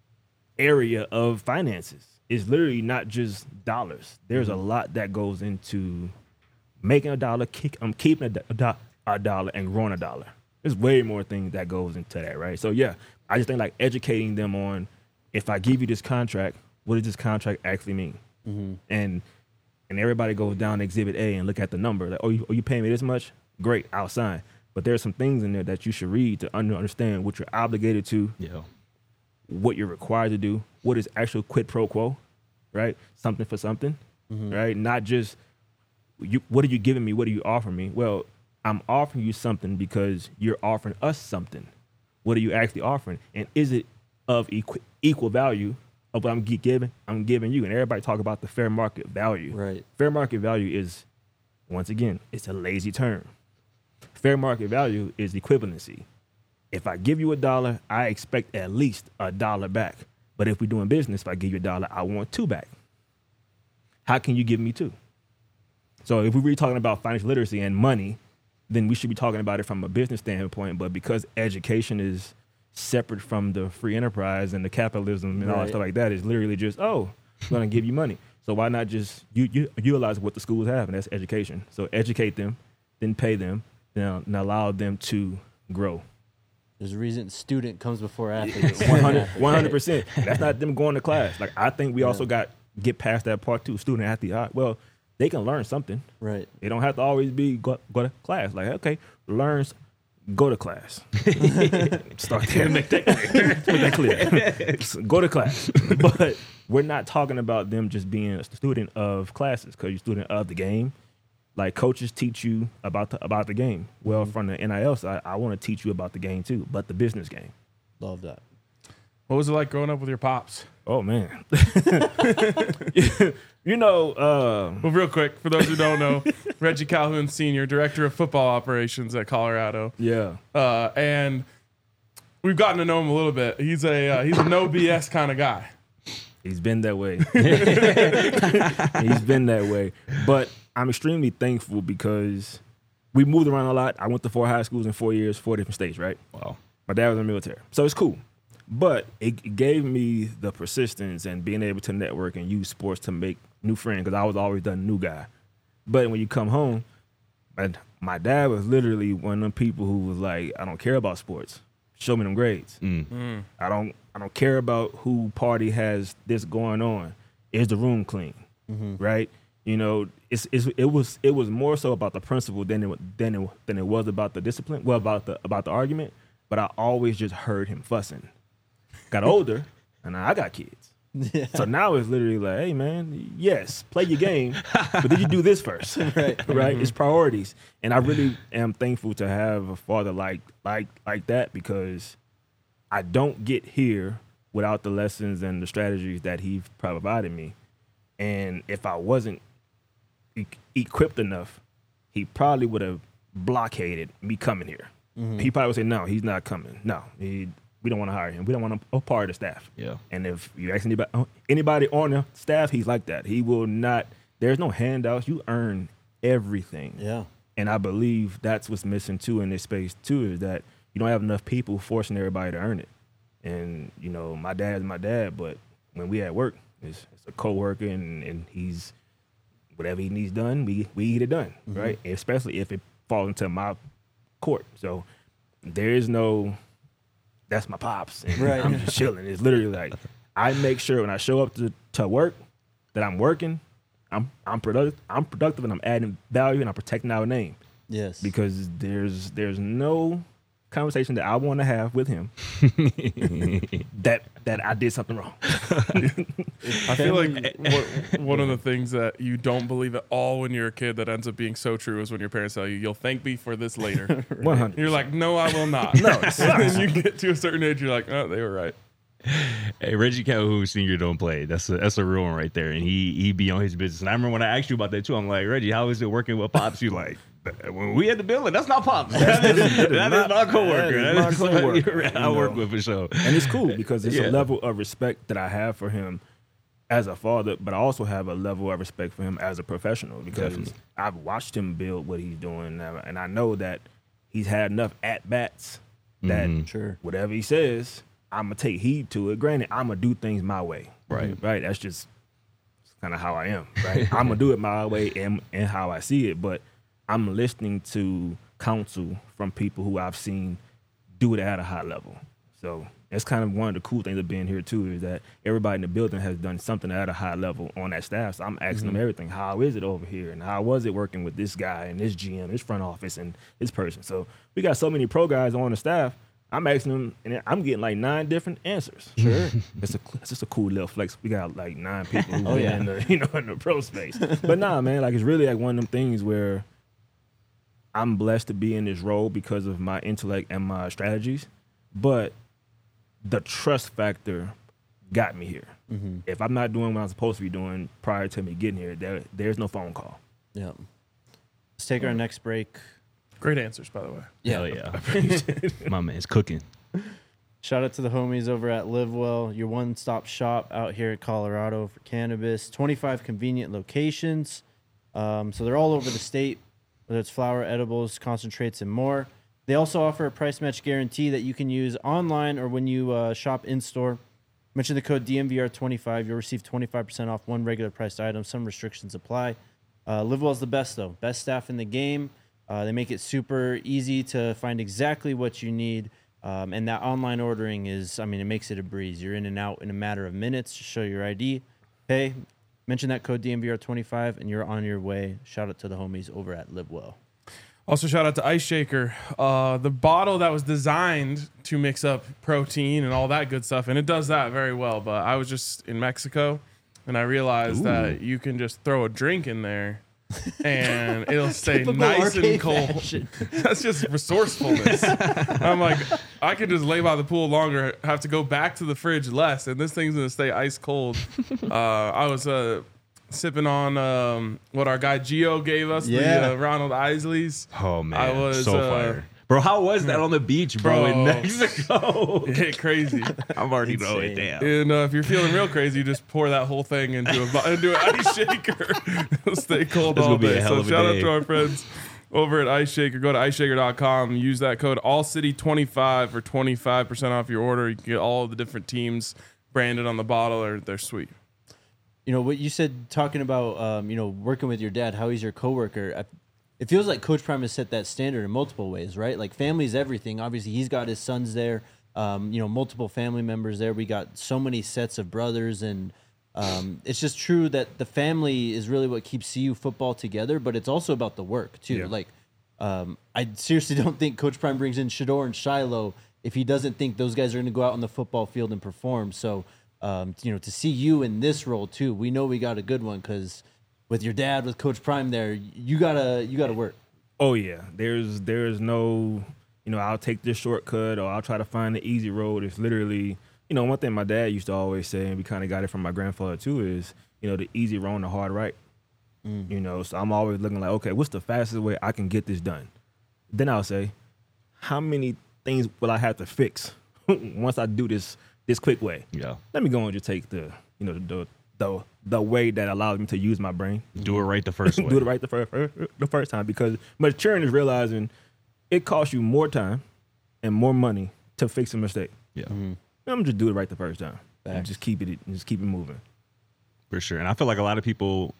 Speaker 3: area of finances. It's literally not just dollars. There's a lot that goes into making a dollar, kick, um, keeping a, do- a, do- a dollar, and growing a dollar. There's way more things that goes into that, right? So yeah, I just think like educating them on, if I give you this contract, what does this contract actually mean? Mm-hmm. And and everybody goes down to Exhibit A and look at the number. Like, oh, you, oh, you paying me this much? Great, I'll sign. But there's some things in there that you should read to under- understand what you're obligated to,
Speaker 4: Yeah.
Speaker 3: what you're required to do, what is actual quid pro quo, right? Something for something, mm-hmm. right? Not just, you. What are you giving me? What are you offering me? Well, I'm offering you something because you're offering us something. What are you actually offering? And is it of equ- equal value of what I'm gi- giving? I'm giving you. And everybody talk about the fair market value.
Speaker 1: Right.
Speaker 3: Fair market value is, once again, it's a lazy term. Fair market value is equivalency. If I give you a dollar, I expect at least a dollar back. But if we're doing business, if I give you a dollar, I want two back. How can you give me two? So if we're really talking about financial literacy and money, then we should be talking about it from a business standpoint. But because education is separate from the free enterprise and the capitalism and all that
Speaker 1: Right.
Speaker 3: stuff like that, it's literally just, oh, I'm going to give you money. So why not just you, you, utilize what the schools have, and that's education. So educate them, then pay them, then and allow them to grow.
Speaker 1: There's a reason student comes before athlete.
Speaker 3: one hundred percent. That's not them going to class. Like, I think we also got get past that part too. Student athlete. All right, well, they can learn something.
Speaker 1: Right.
Speaker 3: They don't have to always be go, go to class. Like, okay, learn, go to class. Start there. Make that clear. Make that clear. Go to class. But we're not talking about them just being a student of classes, because you're a student of the game. Like, coaches teach you about the about the game. Well, from the N I L side, I want to teach you about the game too, but the business game.
Speaker 1: Love that.
Speaker 2: What was it like growing up with your pops?
Speaker 3: Oh man. You know, uh,
Speaker 2: Well, real quick, for those who don't know, Reggie Calhoun Senior, Director of Football Operations at Colorado.
Speaker 3: yeah.
Speaker 2: Uh, and we've gotten to know him a little bit. He's a uh, he's a no B S kind of guy.
Speaker 3: He's been that way. He's been that way. But I'm extremely thankful because we moved around a lot. I went to four high schools in four years, four different states, right?
Speaker 4: Wow.
Speaker 3: My dad was in the military. So it's cool. But it gave me the persistence and being able to network and use sports to make new friends, because I was always the new guy. But when you come home, my, my dad was literally one of them people who was like, I don't care about sports. Show me them grades.
Speaker 4: Mm.
Speaker 3: I don't I don't care about who party has this going on. Is the room clean?
Speaker 1: Mm-hmm.
Speaker 3: Right? You know, it's, it's it was it was more so about the principle than it than it than it was about the discipline. Well, about the about the argument. But I always just heard him fussing. Got older, and I got kids.
Speaker 1: Yeah.
Speaker 3: So now it's literally like, hey man, yes, play your game, but did you do this first?
Speaker 1: Right.
Speaker 3: Right?
Speaker 2: Mm-hmm.
Speaker 3: It's priorities. And I really am thankful to have a father like like like that, because I don't get here without the lessons and the strategies that he provided me. And if I wasn't e- equipped enough, he probably would have blockaded me coming here.
Speaker 1: Mm-hmm.
Speaker 3: He probably would say, no, he's not coming. No, he, we don't want to hire him. We don't want him a part of the staff.
Speaker 4: Yeah.
Speaker 3: And if you ask anybody, anybody on the staff, he's like that. He will not, there's no handouts. You earn everything.
Speaker 1: Yeah.
Speaker 3: And I believe that's what's missing too in this space too, is that you don't have enough people forcing everybody to earn it. And, you know, my dad's my dad, but when we at work, it's, it's a coworker and, and he's, whatever he needs done, we, we get it done,
Speaker 1: Mm-hmm.
Speaker 3: right? Especially if it falls into my court. So there is no, that's my pops, and
Speaker 1: Right.
Speaker 3: I'm just chilling. It's literally like, I make sure when I show up to, to work that I'm working, I'm I'm productive, I'm productive, and I'm adding value, and I'm protecting our name,
Speaker 1: Yes.
Speaker 3: because there's there's no conversation that I want to have with him that that I did something wrong.
Speaker 2: I feel like what, one of the things that you don't believe at all when you're a kid that ends up being so true is when your parents tell you, you'll thank me for this later.
Speaker 3: one hundred.
Speaker 2: You're like, no, I will not.
Speaker 3: No, it
Speaker 2: And then you get to a certain age, you're like, oh, they were right.
Speaker 4: Hey, Reggie Calhoun Senior don't play. That's a that's a real one right there. And he he be on his business. And I remember when I asked you about that too. I'm like, Reggie, how is it working with Pops? You like, when we had the building, that's not Pops. That is, that is
Speaker 3: not-
Speaker 4: my coworker.
Speaker 3: that
Speaker 4: That
Speaker 3: is
Speaker 4: is
Speaker 3: my coworker,
Speaker 4: I
Speaker 3: you
Speaker 4: work
Speaker 3: know.
Speaker 4: with for sure.
Speaker 3: And it's cool because it's
Speaker 4: Yeah.
Speaker 3: a level of respect that I have for him as a father, but I also have a level of respect for him as a professional because
Speaker 4: Definitely.
Speaker 3: I've watched him build what he's doing now, and I know that he's had enough at bats that
Speaker 4: Mhm.
Speaker 1: Sure.
Speaker 3: whatever he says, I'm gonna take heed to it. Granted, I'm gonna do things my way.
Speaker 4: Right.
Speaker 3: Right. That's just kind of how I am. Right. I'm gonna do it my way and and how I see it, but I'm listening to counsel from people who I've seen do it at a high level. So that's kind of one of the cool things of being here too, is that everybody in the building has done something at a high level on that staff. So I'm asking them everything. How is it over here? And how was it working with this guy and this G M, this front office and this person? So we got so many pro guys on the staff. I'm asking them, and I'm getting like nine different answers. Sure, it's a it's just a cool little flex. We got like nine people who
Speaker 1: Oh,
Speaker 3: been
Speaker 1: yeah.
Speaker 3: in the you know in the pro space. But nah, man, like it's really like one of them things where I'm blessed to be in this role because of my intellect and my strategies, but the trust factor got me here.
Speaker 1: Mm-hmm.
Speaker 3: If I'm not doing what I'm supposed to be doing prior to me getting here, there there's no phone call.
Speaker 1: Yeah. Let's take our next break.
Speaker 2: Great answers, by the way.
Speaker 4: Hell yeah. My man's cooking.
Speaker 1: Shout out to the homies over at LiveWell, your one-stop shop out here in Colorado for cannabis. twenty-five convenient locations. Um, so they're all over the state, whether it's flower, edibles, concentrates, and more. They also offer a price match guarantee that you can use online or when you uh, shop in-store. Mention the code D M V R twenty-five. You'll receive twenty-five percent off one regular priced item. Some restrictions apply. Uh, LiveWell's the best, though. Best staff in the game. Uh, they make it super easy to find exactly what you need. Um, and that online ordering is, I mean, it makes it a breeze. You're in and out in a matter of minutes. Just show your I D, pay, mention that code D M V R twenty-five, and you're on your way. Shout out to the homies over at LiveWell.
Speaker 2: Also, shout out to Ice Shaker, uh, the bottle that was designed to mix up protein and all that good stuff, and it does that very well. But I was just in Mexico, and I realized that you can just throw a drink in there, and it'll stay
Speaker 1: Typical
Speaker 2: nice and
Speaker 1: arcade
Speaker 2: cold.
Speaker 1: fashion.
Speaker 2: That's just resourcefulness. I'm like, I could just lay by the pool longer, have to go back to the fridge less, and this thing's gonna stay ice cold. Uh, I was uh, sipping on um, what our guy Gio gave us,
Speaker 1: Yeah.
Speaker 2: the uh, Ronald Isley's.
Speaker 4: Oh man,
Speaker 2: I was,
Speaker 4: so
Speaker 2: uh,
Speaker 4: fire. Bro, how was that on the beach, bro, in
Speaker 2: Bro.
Speaker 4: Mexico?
Speaker 2: It hit crazy.
Speaker 4: I'm already know it.
Speaker 1: Insane.
Speaker 4: Damn.
Speaker 2: And uh, if you're feeling real crazy, you just pour that whole thing into a bo- into an ice shaker. It'll stay cold
Speaker 4: This
Speaker 2: all
Speaker 4: will be a
Speaker 2: day.
Speaker 4: hell
Speaker 2: So
Speaker 4: of a
Speaker 2: shout out
Speaker 4: day.
Speaker 2: to our friends over at Ice Shaker. Go to ice shaker dot com. Use that code all city twenty-five for twenty-five percent off your order. You can get all of the different teams branded on the bottle. Or they're sweet.
Speaker 1: You know, what you said, talking about, um, you know, working with your dad, how he's your coworker. I, it feels like Coach Prime has set that standard in multiple ways, right? Like family's everything. Obviously, he's got his sons there, um, you know, multiple family members there. We got so many sets of brothers, and um, it's just true that the family is really what keeps C U football together, but it's also about the work, too.
Speaker 3: Yeah.
Speaker 1: Like, um, I seriously don't think Coach Prime brings in Shador and Shiloh if he doesn't think those guys are going to go out on the football field and perform. So, um, you know, to see you in this role, too, we know we got a good one because – with your dad, with Coach Prime there, you gotta you gotta work.
Speaker 3: Oh yeah, there's there's no, you know, I'll take this shortcut or I'll try to find the easy road. It's literally, you know, one thing my dad used to always say, and we kind of got it from my grandfather too, is, you know, the easy wrong, the hard right. Mm. You know, so I'm always looking like, okay, what's the fastest way I can get this done? Then I'll say, how many things will I have to fix once I do this this quick way?
Speaker 4: Yeah.
Speaker 3: Let me go and just take the, you know, the the the way that allows me to use my brain.
Speaker 4: Do it right the first way.
Speaker 3: Do it right the first the first time, because maturing is realizing it costs you more time and more money to fix a mistake.
Speaker 4: Yeah.
Speaker 3: I'm gonna just do it right the first time and
Speaker 1: Facts.
Speaker 3: just keep it and just keep it moving.
Speaker 4: For sure. And I feel like a lot of people,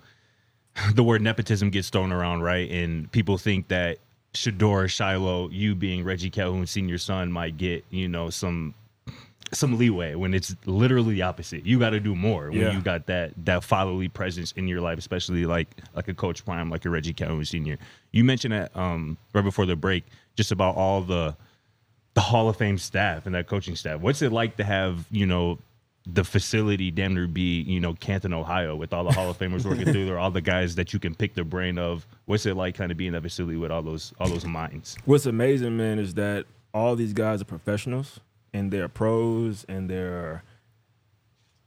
Speaker 4: the word nepotism gets thrown around, right? And people think that Shador, Shiloh, you being Reggie Calhoun Senior's son, might get, you know, some some leeway when it's literally the opposite. You got to do more when
Speaker 3: Yeah.
Speaker 4: you got that that fatherly presence in your life, especially like like a Coach Prime, like a Reggie Calhoun Senior. You mentioned that um, right before the break, just about all the the Hall of Fame staff and that coaching staff. What's it like to have, you know, the facility damn near be, you know, Canton, Ohio, with all the Hall of Famers working through there, all the guys that you can pick the brain of? What's it like kind of being in that facility with all those all those minds?
Speaker 3: What's amazing, man, is that all these guys are professionals and they're pros and they're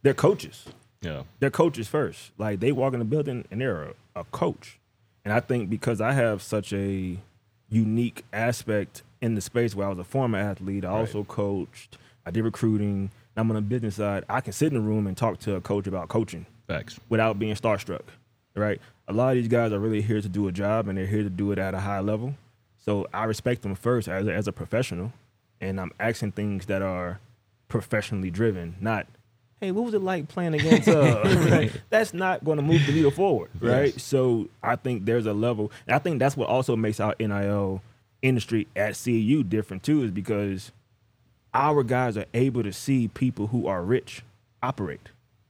Speaker 3: they're coaches.
Speaker 4: Yeah.
Speaker 3: They're coaches first. Like they walk in the building and they're a, a coach. And I think because I have such a unique aspect in the space where I was a former athlete, I
Speaker 4: Right.
Speaker 3: also coached, I did recruiting, I'm on the business side. I can sit in a room and talk to a coach about coaching
Speaker 4: Facts.
Speaker 3: without being starstruck, right? A lot of these guys are really here to do a job and they're here to do it at a high level. So I respect them first as a, as a professional, and I'm asking things that are professionally driven, not, hey, what was it like playing against uh right? That's not going to move the needle forward, right?
Speaker 4: Yes.
Speaker 3: So I think there's a level, and I think that's what also makes our N I L industry at C U different too, is because our guys are able to see people who are rich operate.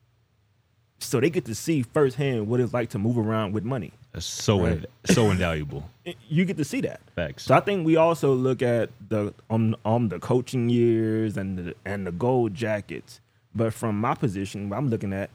Speaker 3: So they get to see firsthand what it's like to move around with money.
Speaker 4: That's so
Speaker 3: Right.
Speaker 4: in, so invaluable.
Speaker 3: You get to see that.
Speaker 4: Facts.
Speaker 3: So I think we also look at the on on the coaching years and the and the gold jackets. But from my position, I'm looking at,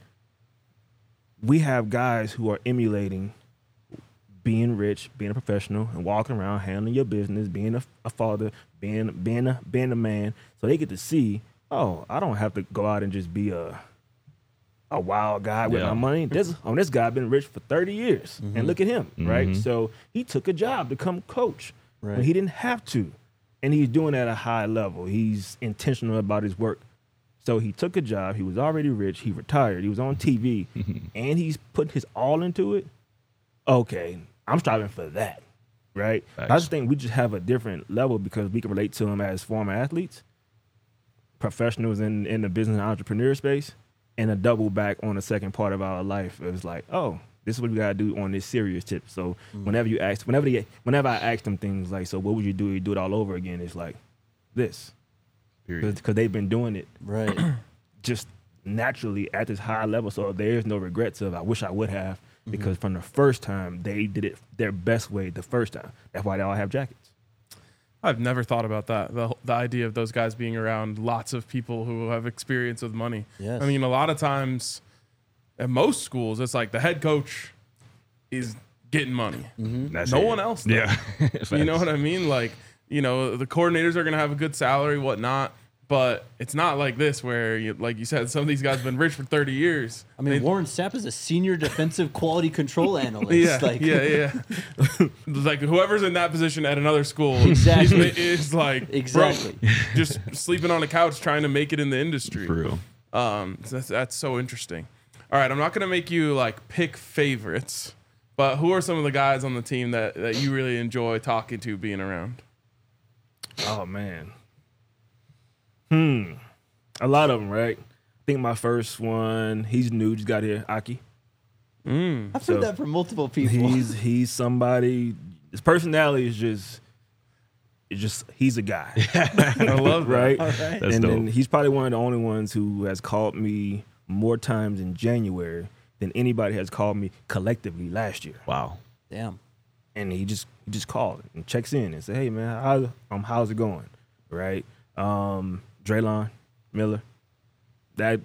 Speaker 3: we have guys who are emulating being rich, being a professional, and walking around handling your business, being a, a father, being being a being a man. So they get to see, oh, I don't have to go out and just be a a wild guy with
Speaker 4: Yeah.
Speaker 3: my money. This oh, this guy been rich for thirty years, and look at him, right?
Speaker 4: Mhm.
Speaker 3: So he took a job to come coach
Speaker 1: Right.
Speaker 3: when he didn't have to, and he's doing it at a high level. He's intentional about his work. So he took a job. He was already rich. He retired. He was on T V, and he's putting his all into it. Okay, I'm striving for that, right? I
Speaker 4: Facts.
Speaker 3: just think we just have a different level because we can relate to them as former athletes, professionals in in the business and entrepreneur space, and a double back on the second part of our life. It was like, oh, this is what we gotta do on this serious tip. So whenever you ask, whenever they, whenever I ask them things like, so what would you do? You do it all over again? It's like this,
Speaker 4: Period.
Speaker 3: because they've been doing it
Speaker 1: Right.
Speaker 3: just naturally at this high level. So there's no regrets of I wish I would have,
Speaker 1: Mm-hmm.
Speaker 3: because from the first time they did it their best way the first time. That's why they all have jackets.
Speaker 2: I've never thought about that. The the idea of those guys being around lots of people who have experience with money.
Speaker 1: Yes.
Speaker 2: I mean, a lot of times at most schools, it's like the head coach is getting money.
Speaker 3: That's
Speaker 2: No
Speaker 3: it.
Speaker 2: one else. Does.
Speaker 4: Yeah.
Speaker 2: You know what I mean? Like, you know, the coordinators are going to have a good salary, whatnot. But it's not like this where, you, like you said, some of these guys have been rich for thirty years.
Speaker 1: I mean,
Speaker 2: They-
Speaker 1: Warren Sapp is a senior defensive quality control analyst.
Speaker 2: yeah,
Speaker 1: like,
Speaker 2: yeah, yeah. Like whoever's in that position at another school
Speaker 1: Exactly.
Speaker 2: is, is like
Speaker 1: Exactly.
Speaker 2: broke, just sleeping on a couch trying to make it in the industry.
Speaker 4: For real.
Speaker 2: Um, so that's, that's so interesting. All right, I'm not gonna make you like pick favorites, but who are some of the guys on the team that, that you really enjoy talking to, being around?
Speaker 3: Oh man. Hmm. A lot of them, right? I think my first one, he's new, just got here, Aki.
Speaker 2: Mm.
Speaker 1: I've
Speaker 3: So,
Speaker 1: heard that from multiple people.
Speaker 3: He's he's somebody. His personality is just, it's just he's a guy,
Speaker 2: I love that.
Speaker 3: right?
Speaker 1: All right.
Speaker 4: That's
Speaker 3: and
Speaker 4: dope.
Speaker 3: then he's probably one of the only ones who has called me more times in January than anybody has called me collectively last year.
Speaker 4: Wow.
Speaker 1: Damn.
Speaker 3: And he just he just called and checks in and say, "Hey man, how um how's it going?" Right? Um, Draylon Miller. That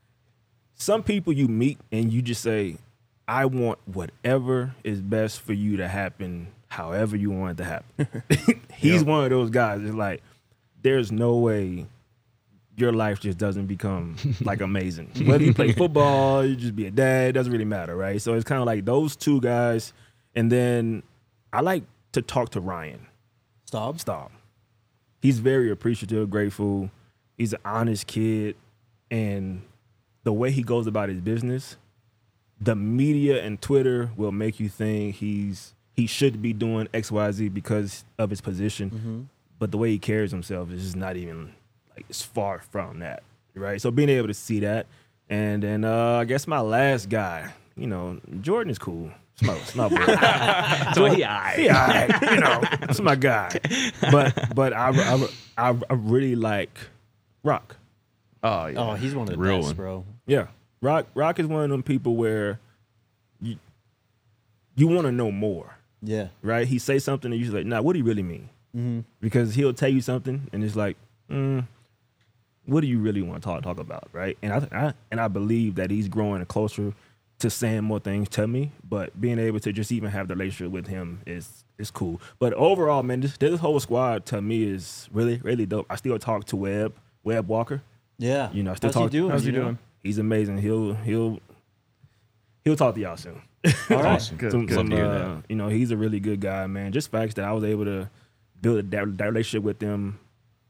Speaker 3: some people you meet and you just say, "I want whatever is best for you to happen, however you want it to happen." He's one of those guys. It's like there's no way your life just doesn't become like amazing. Whether you play football, you just be a dad, it doesn't really matter, right? So it's kind of like those two guys. And then I like to talk to Ryan
Speaker 1: Staub?
Speaker 3: Staub. He's very appreciative, grateful. He's an honest kid. And the way he goes about his business, the media and Twitter will make you think he's he should be doing X, Y, Z because of his position.
Speaker 1: Mm-hmm.
Speaker 3: But the way he carries himself is just not even like it's far from that, right? So being able to see that, and then uh, I guess my last guy, you know, Jordan is cool. It's my, it's my boy.
Speaker 4: So he aight.
Speaker 3: Yeah, all right, you know, that's my guy. But but I, I, I, I really like Rock.
Speaker 2: Oh yeah.
Speaker 1: Oh, he's one of the
Speaker 4: Real
Speaker 1: best,
Speaker 4: one.
Speaker 1: bro.
Speaker 3: Yeah, Rock Rock is one of them people where you you want to know more,
Speaker 1: Yeah.
Speaker 3: right? He say something and you're like, nah, what do you really mean?
Speaker 1: Mm-hmm.
Speaker 3: Because he'll tell you something and it's like, mm, what do you really want to talk talk about, right? And I, I and I believe that he's growing closer to saying more things to me, but being able to just even have the relationship with him is is cool. But overall, man, this, this whole squad to me is really really dope. I still talk to Webb Webb Walker.
Speaker 1: Yeah.
Speaker 3: You know, I still
Speaker 1: How's
Speaker 3: talk-
Speaker 1: he doing?
Speaker 2: How's he
Speaker 1: you know?
Speaker 2: doing?
Speaker 3: he's amazing. He'll he'll he'll talk to y'all soon.
Speaker 1: All right.
Speaker 4: Awesome.
Speaker 2: Good,
Speaker 3: Some-
Speaker 2: good.
Speaker 3: some,
Speaker 4: to hear
Speaker 3: uh,
Speaker 4: that.
Speaker 3: You know, he's a really good guy, man. Just facts that I was able to build that, that relationship with them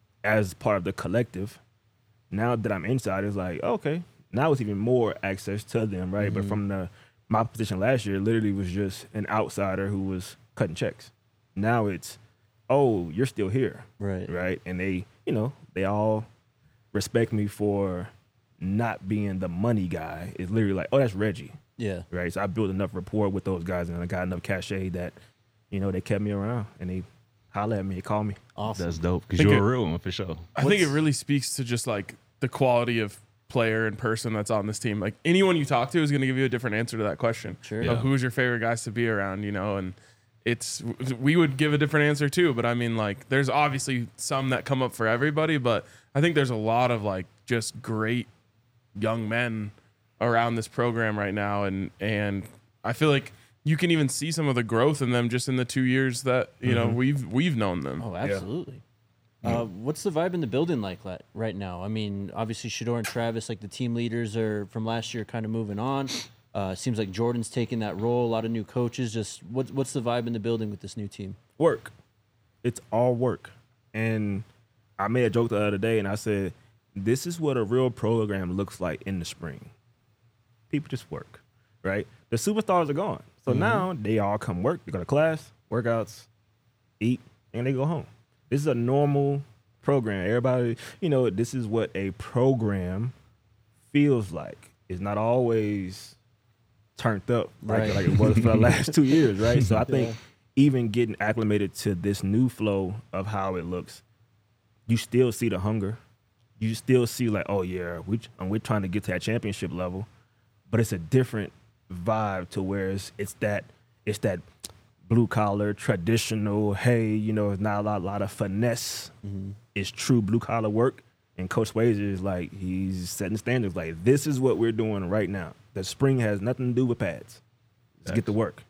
Speaker 3: as part of the collective. Now that I'm inside, it's like, okay, now it's even more access to them, right? But from the my position last year, literally was just an outsider who was cutting checks. Now it's, oh, you're still here,
Speaker 1: Right.
Speaker 3: right? And they, you know, they all respect me for not being the money guy. It's literally like, oh, that's Reggie,
Speaker 1: Yeah.
Speaker 3: right? So I built enough rapport with those guys, and I got enough cachet that, you know, they kept me around and they holler at me, they call me.
Speaker 1: Awesome.
Speaker 4: That's dope because
Speaker 2: Think
Speaker 4: you're
Speaker 2: it-
Speaker 4: a real one for sure.
Speaker 2: I think it
Speaker 1: What's-
Speaker 2: really speaks to just like the quality of player and person that's on this team. Like anyone you talk to is going to give you a different answer to that question.
Speaker 1: Sure.
Speaker 2: Of
Speaker 4: Yeah.
Speaker 2: who's your favorite guys to be around, you know, and it's we would give a different answer too, but I mean like there's obviously some that come up for everybody, but I think there's a lot of like just great young men around this program right now, and and I feel like you can even see some of the growth in them just in the two years that you know we've we've known them.
Speaker 1: Oh, absolutely. Uh, what's the vibe in the building like la- right now? I mean, obviously Shador and Travis, like the team leaders, are from last year, kind of moving on. Uh, seems like Jordan's taking that role. A lot of new coaches. Just what, what's the vibe in the building with this new team?
Speaker 3: Work. It's all work. And I made a joke the other day and I said, this is what a real program looks like in the spring. People just work, right? The superstars are gone. So now they all come work. They go to class, workouts, eat, and they go home. This is a normal program. Everybody, you know, this is what a program feels like. It's not always turned up like,
Speaker 1: Right.
Speaker 3: like it was for the last two years, right? So I think
Speaker 1: Yeah.
Speaker 3: even getting acclimated to this new flow of how it looks, you still see the hunger. You still see like, oh yeah, we and we're trying to get to that championship level, but it's a different vibe to where it's, it's that it's that blue collar traditional. Hey, you know, it's not a lot, lot of finesse. It's true blue collar work. And Coach Swayze is like he's setting standards. Like this is what we're doing right now. The spring has nothing to do with pads. Let's get to work.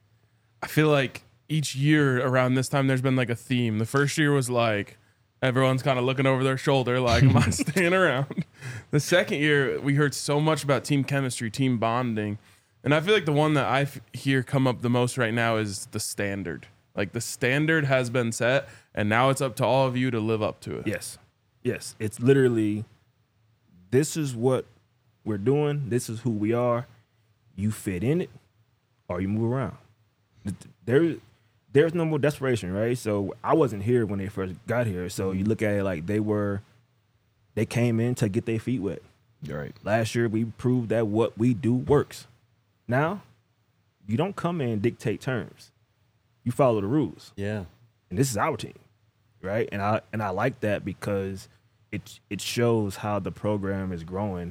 Speaker 2: I feel like each year around this time there's been like a theme. The first year was like everyone's kind of looking over their shoulder like, am I staying around? The second year we heard so much about team chemistry, team bonding. And I feel like the one that I f- hear come up the most right now is the standard. Like the standard has been set and now it's up to all of you to live up to it.
Speaker 3: Yes. Yes. It's literally this is what we're doing. This is who we are. You fit in it or you move around. There, there's no more desperation, right? So I wasn't here when they first got here. So you look at it like they were, they came in to get their feet wet.
Speaker 4: You're right.
Speaker 3: Last year we proved that what we do works. Now, you don't come in and dictate terms. You follow the rules.
Speaker 1: Yeah.
Speaker 3: And this is our team, right? And I and I like that because it it shows how the program is growing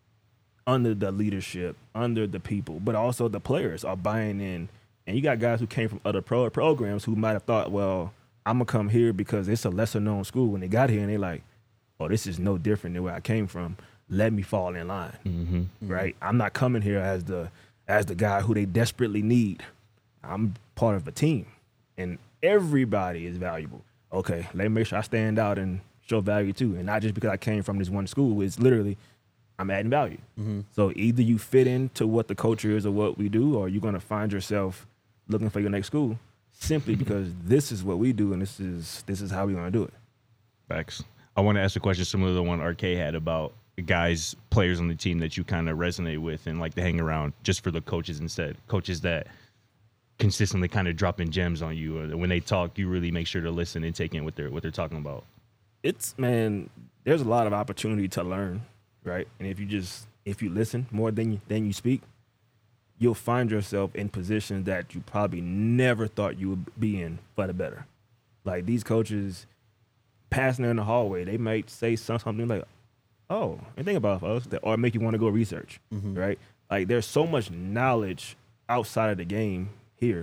Speaker 3: under the leadership, under the people, but also the players are buying in. And you got guys who came from other pro programs who might have thought, well, I'm gonna come here because it's a lesser known school. When they got here and they like, oh, this is no different than where I came from. Let me fall in line,
Speaker 4: Mm-hmm.
Speaker 3: right? I'm not coming here as the as the guy who they desperately need. I'm part of a team, and everybody is valuable. Okay, let me make sure I stand out and show value too, and not just because I came from this one school. It's literally I'm adding value. So either you fit into what the culture is or what we do, or you're gonna find yourself looking for your next school simply because this is what we do and this is this is how we're gonna do it.
Speaker 4: Facts. I want to ask a question similar to the one R K had about guys, players on the team that you kind of resonate with and like to hang around just for the coaches instead. Coaches that consistently kind of dropping gems on you. Or when they talk, you really make sure to listen and take in what they're what they're talking about.
Speaker 3: It's man, there's a lot of opportunity to learn, right? And if you just if you listen more than you, than you speak, you'll find yourself in positions that you probably never thought you would be in for the better. Like these coaches passing in the hallway, they might say some- something like, "Oh, and think about us," or make you want to go research, right? Like there's so much knowledge outside of the game here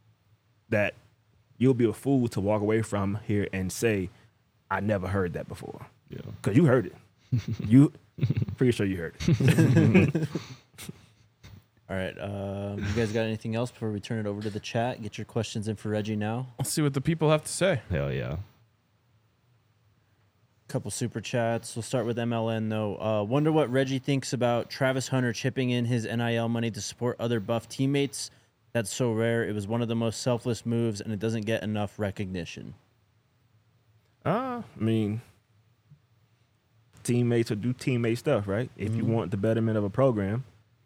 Speaker 3: that you'll be a fool to walk away from here and say, "I never heard that before,"
Speaker 4: Yeah.
Speaker 3: because you heard it. You pretty sure you heard it.
Speaker 1: All right. Um, you guys got anything else before we turn it over to the chat? Get your questions in for Reggie now.
Speaker 2: Let's see what the people have to say.
Speaker 4: Hell yeah.
Speaker 1: Couple super chats. We'll start with M L N though. Uh, wonder what Reggie thinks about Travis Hunter chipping in his N I L money to support other Buff teammates. That's so rare. It was one of the most selfless moves, and it doesn't get enough recognition.
Speaker 3: Uh, I mean, teammates will do teammate stuff, right? If you want the betterment of a program,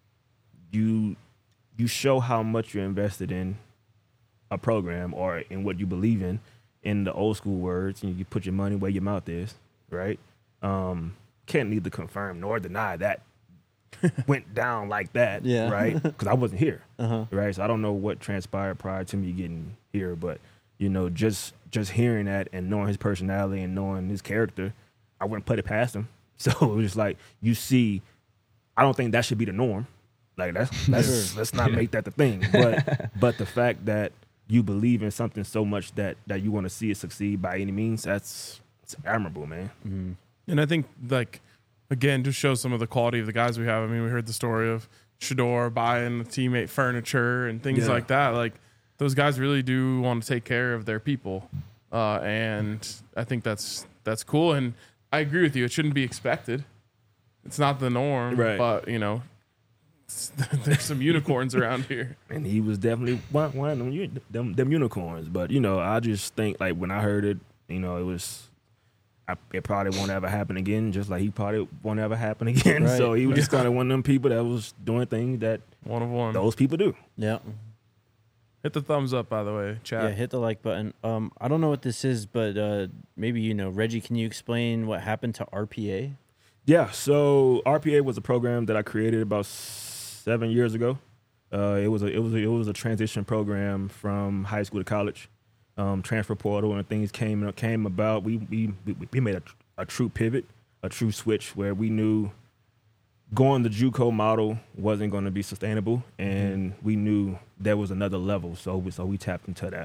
Speaker 3: you you show how much you're invested in a program or in what you believe in. In the old school words, you, you put your money where your mouth is, right? Um, can't neither confirm nor deny that went down like that,
Speaker 1: Yeah.
Speaker 3: right? Because I wasn't here,
Speaker 1: Uh-huh.
Speaker 3: right? So I don't know what transpired prior to me getting here, but you know, just just hearing that and knowing his personality and knowing his character, I wouldn't put it past him. So it was just like you see, I don't think that should be the norm. Like that's that's
Speaker 1: Sure.
Speaker 3: let's not make that the thing. But but the fact that you believe in something so much that that you want to see it succeed by any means, that's it's admirable, man.
Speaker 1: Mm-hmm.
Speaker 2: And I think, like, again, just shows some of the quality of the guys we have. I mean, we heard the story of Shador buying the teammate furniture and things
Speaker 3: Yeah.
Speaker 2: like that. Like, those guys really do want to take care of their people, uh, and I think that's that's cool. And I agree with you; it shouldn't be expected. It's not the norm,
Speaker 3: Right.
Speaker 2: but you know, there's some unicorns around here.
Speaker 3: And he was definitely one, one of them, u- them them unicorns. But you know, I just think like when I heard it, you know, it was. I, it probably won't ever happen again, just like he probably won't ever happen again.
Speaker 1: Right.
Speaker 3: So he was just kind of one of them people that was doing things that
Speaker 2: One of one.
Speaker 3: those people do.
Speaker 1: Yeah.
Speaker 2: Hit the thumbs up, by the way, chat.
Speaker 1: Yeah, hit the like button. Um, I don't know what this is, but uh, maybe you know. Reggie, can you explain what happened to R P A?
Speaker 3: Yeah, so R P A was a program that I created about seven years ago. Uh, it was a it was a, it was a transition program from high school to college. Um, transfer portal and things came came about. We we we made a, a true pivot, a true switch where we knew going the JUCO model wasn't going to be sustainable, and we knew there was another level. So we, so we tapped into that.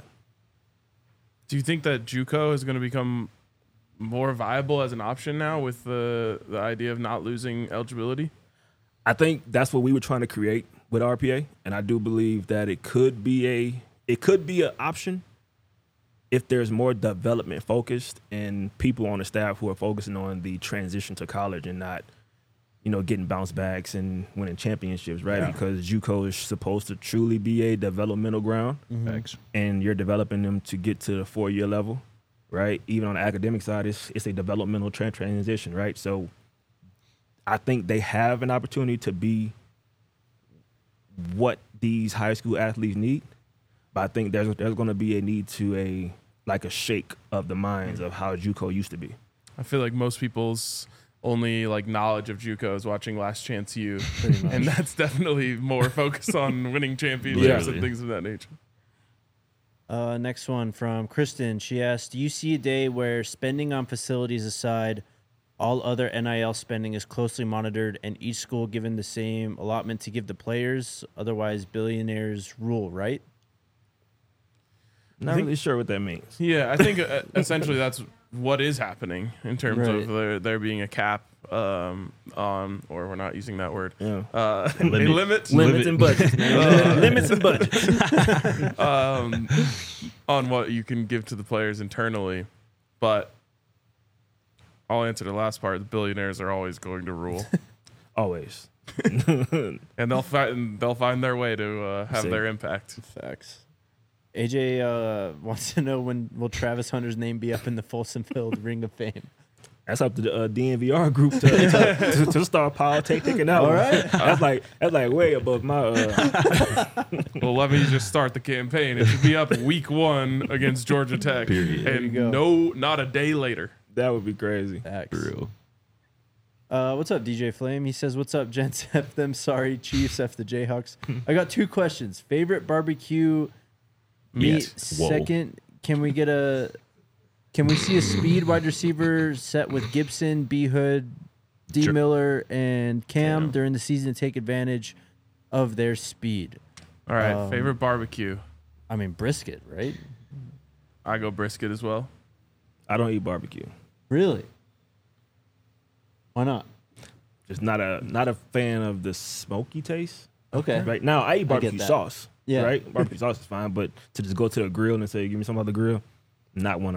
Speaker 2: Do you think that JUCO is going to become more viable as an option now with the the idea of not losing eligibility?
Speaker 3: I think that's what we were trying to create with R P A, and I do believe that it could be a it could be an option if there's more development focused and people on the staff who are focusing on the transition to college and not, you know, getting bounce backs and winning championships, right?
Speaker 2: Yeah.
Speaker 3: Because JUCO is supposed to truly be a developmental ground,
Speaker 4: Thanks.
Speaker 3: and you're developing them to get to the four year level, right? Even on the academic side, it's it's a developmental tra- transition, right? So I think they have an opportunity to be what these high school athletes need, but I think there's there's going to be a need to a like a shake of the minds of how JUCO used to be.
Speaker 2: I feel like most people's only like knowledge of JUCO is watching Last Chance U, and that's definitely more focused on winning championships
Speaker 3: Yeah.
Speaker 2: and things of that nature.
Speaker 1: Uh, next one from Kristen. She asked, do you see a day where spending on facilities aside, all other N I L spending is closely monitored and each school given the same allotment to give the players? Otherwise, billionaires rule, right?
Speaker 3: Not
Speaker 2: think-
Speaker 3: really sure what that means.
Speaker 2: Yeah, I think uh, essentially that's what is happening in terms
Speaker 1: Right.
Speaker 2: of there, there being a cap um, on, or we're not using that word,
Speaker 3: Yeah.
Speaker 2: uh, a
Speaker 4: Limit.
Speaker 2: limit,
Speaker 3: Limits and budgets, man. Limits and budgets.
Speaker 2: um, on what you can give to the players internally. But I'll answer the last part. The billionaires are always going to rule,
Speaker 3: Always.
Speaker 2: and they'll find they'll find their way to uh, have
Speaker 3: Same.
Speaker 2: their impact.
Speaker 1: Facts. A J uh, wants to know when will Travis Hunter's name be up in the Folsom Field Ring of Fame?
Speaker 3: That's up to the uh, D N V R group to, to, to, to start politicking out.
Speaker 1: All right.
Speaker 3: That's like that's like way above my. Uh,
Speaker 2: Well, let me just start the campaign. It should be up week one against Georgia Tech,
Speaker 4: Period.
Speaker 2: and
Speaker 1: go.
Speaker 2: no, not a day later.
Speaker 3: that would be crazy.
Speaker 1: Facts.
Speaker 4: For real.
Speaker 1: Uh, what's up, D J Flame? He says, "What's up, gents? F them. Sorry, Chiefs. F the Jayhawks." I got two questions. Favorite barbecue meat.
Speaker 2: Meat.
Speaker 4: Whoa.
Speaker 1: Second, can we get a? Can we see a speed wide receiver set with Gibson, B Hood, D
Speaker 4: Sure.
Speaker 1: Miller, and Cam
Speaker 3: Cam.
Speaker 1: during the season to take advantage of their speed?
Speaker 2: All right,
Speaker 1: Um,
Speaker 2: favorite barbecue.
Speaker 1: I mean, brisket, right?
Speaker 2: I go brisket as well.
Speaker 3: I don't eat barbecue.
Speaker 1: Really? Why not?
Speaker 3: Just not a not a fan of the smoky taste.
Speaker 1: Okay.
Speaker 3: Right now, I eat barbecue
Speaker 1: that.
Speaker 3: sauce.
Speaker 1: Yeah.
Speaker 3: Right. Barbecue sauce is fine, but to just go to the grill and say, "Give me some other grill," not one of my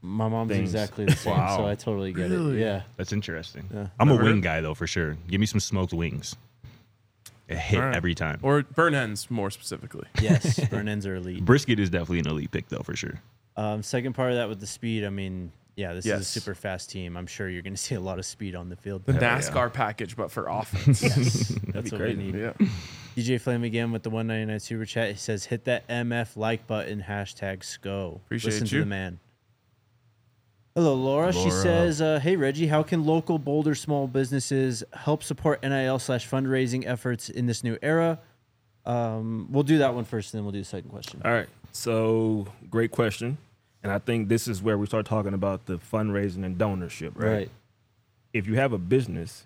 Speaker 1: My mom's
Speaker 3: things.
Speaker 1: exactly the same,
Speaker 4: Wow.
Speaker 1: so I totally get it. Yeah.
Speaker 4: That's interesting.
Speaker 1: Yeah.
Speaker 4: I'm a
Speaker 2: Never
Speaker 4: wing
Speaker 2: heard-
Speaker 4: guy though for sure. Give me some smoked wings. A hit
Speaker 2: All right.
Speaker 4: every time.
Speaker 2: Or burn ends more specifically.
Speaker 1: Yes, burn ends are elite.
Speaker 4: Brisket is definitely an elite pick though for sure.
Speaker 1: Um, second part of that with the speed, I mean, yeah, this is
Speaker 2: Yes.
Speaker 1: a super fast team. I'm sure you're going to see a lot of speed on the field.
Speaker 2: The
Speaker 3: yeah.
Speaker 2: NASCAR package, but for offense.
Speaker 1: That's
Speaker 3: be
Speaker 1: what
Speaker 3: crazy.
Speaker 1: we need.
Speaker 2: yeah.
Speaker 1: D J Flame again with the one ninety-nine super chat. He says, hit that M F like button, hashtag S C O.
Speaker 2: Appreciate
Speaker 1: Listen
Speaker 2: you.
Speaker 1: to the man. Hello, Laura. She
Speaker 4: Laura.
Speaker 1: says, uh, hey, Reggie, how can local Boulder small businesses help support N I L slash fundraising efforts in this new era? Um, we'll do that one first, and then we'll do the second question.
Speaker 3: All right. So great question. And I think this is where we start talking about the fundraising and donorship, right?
Speaker 1: Right.
Speaker 3: If you have a business,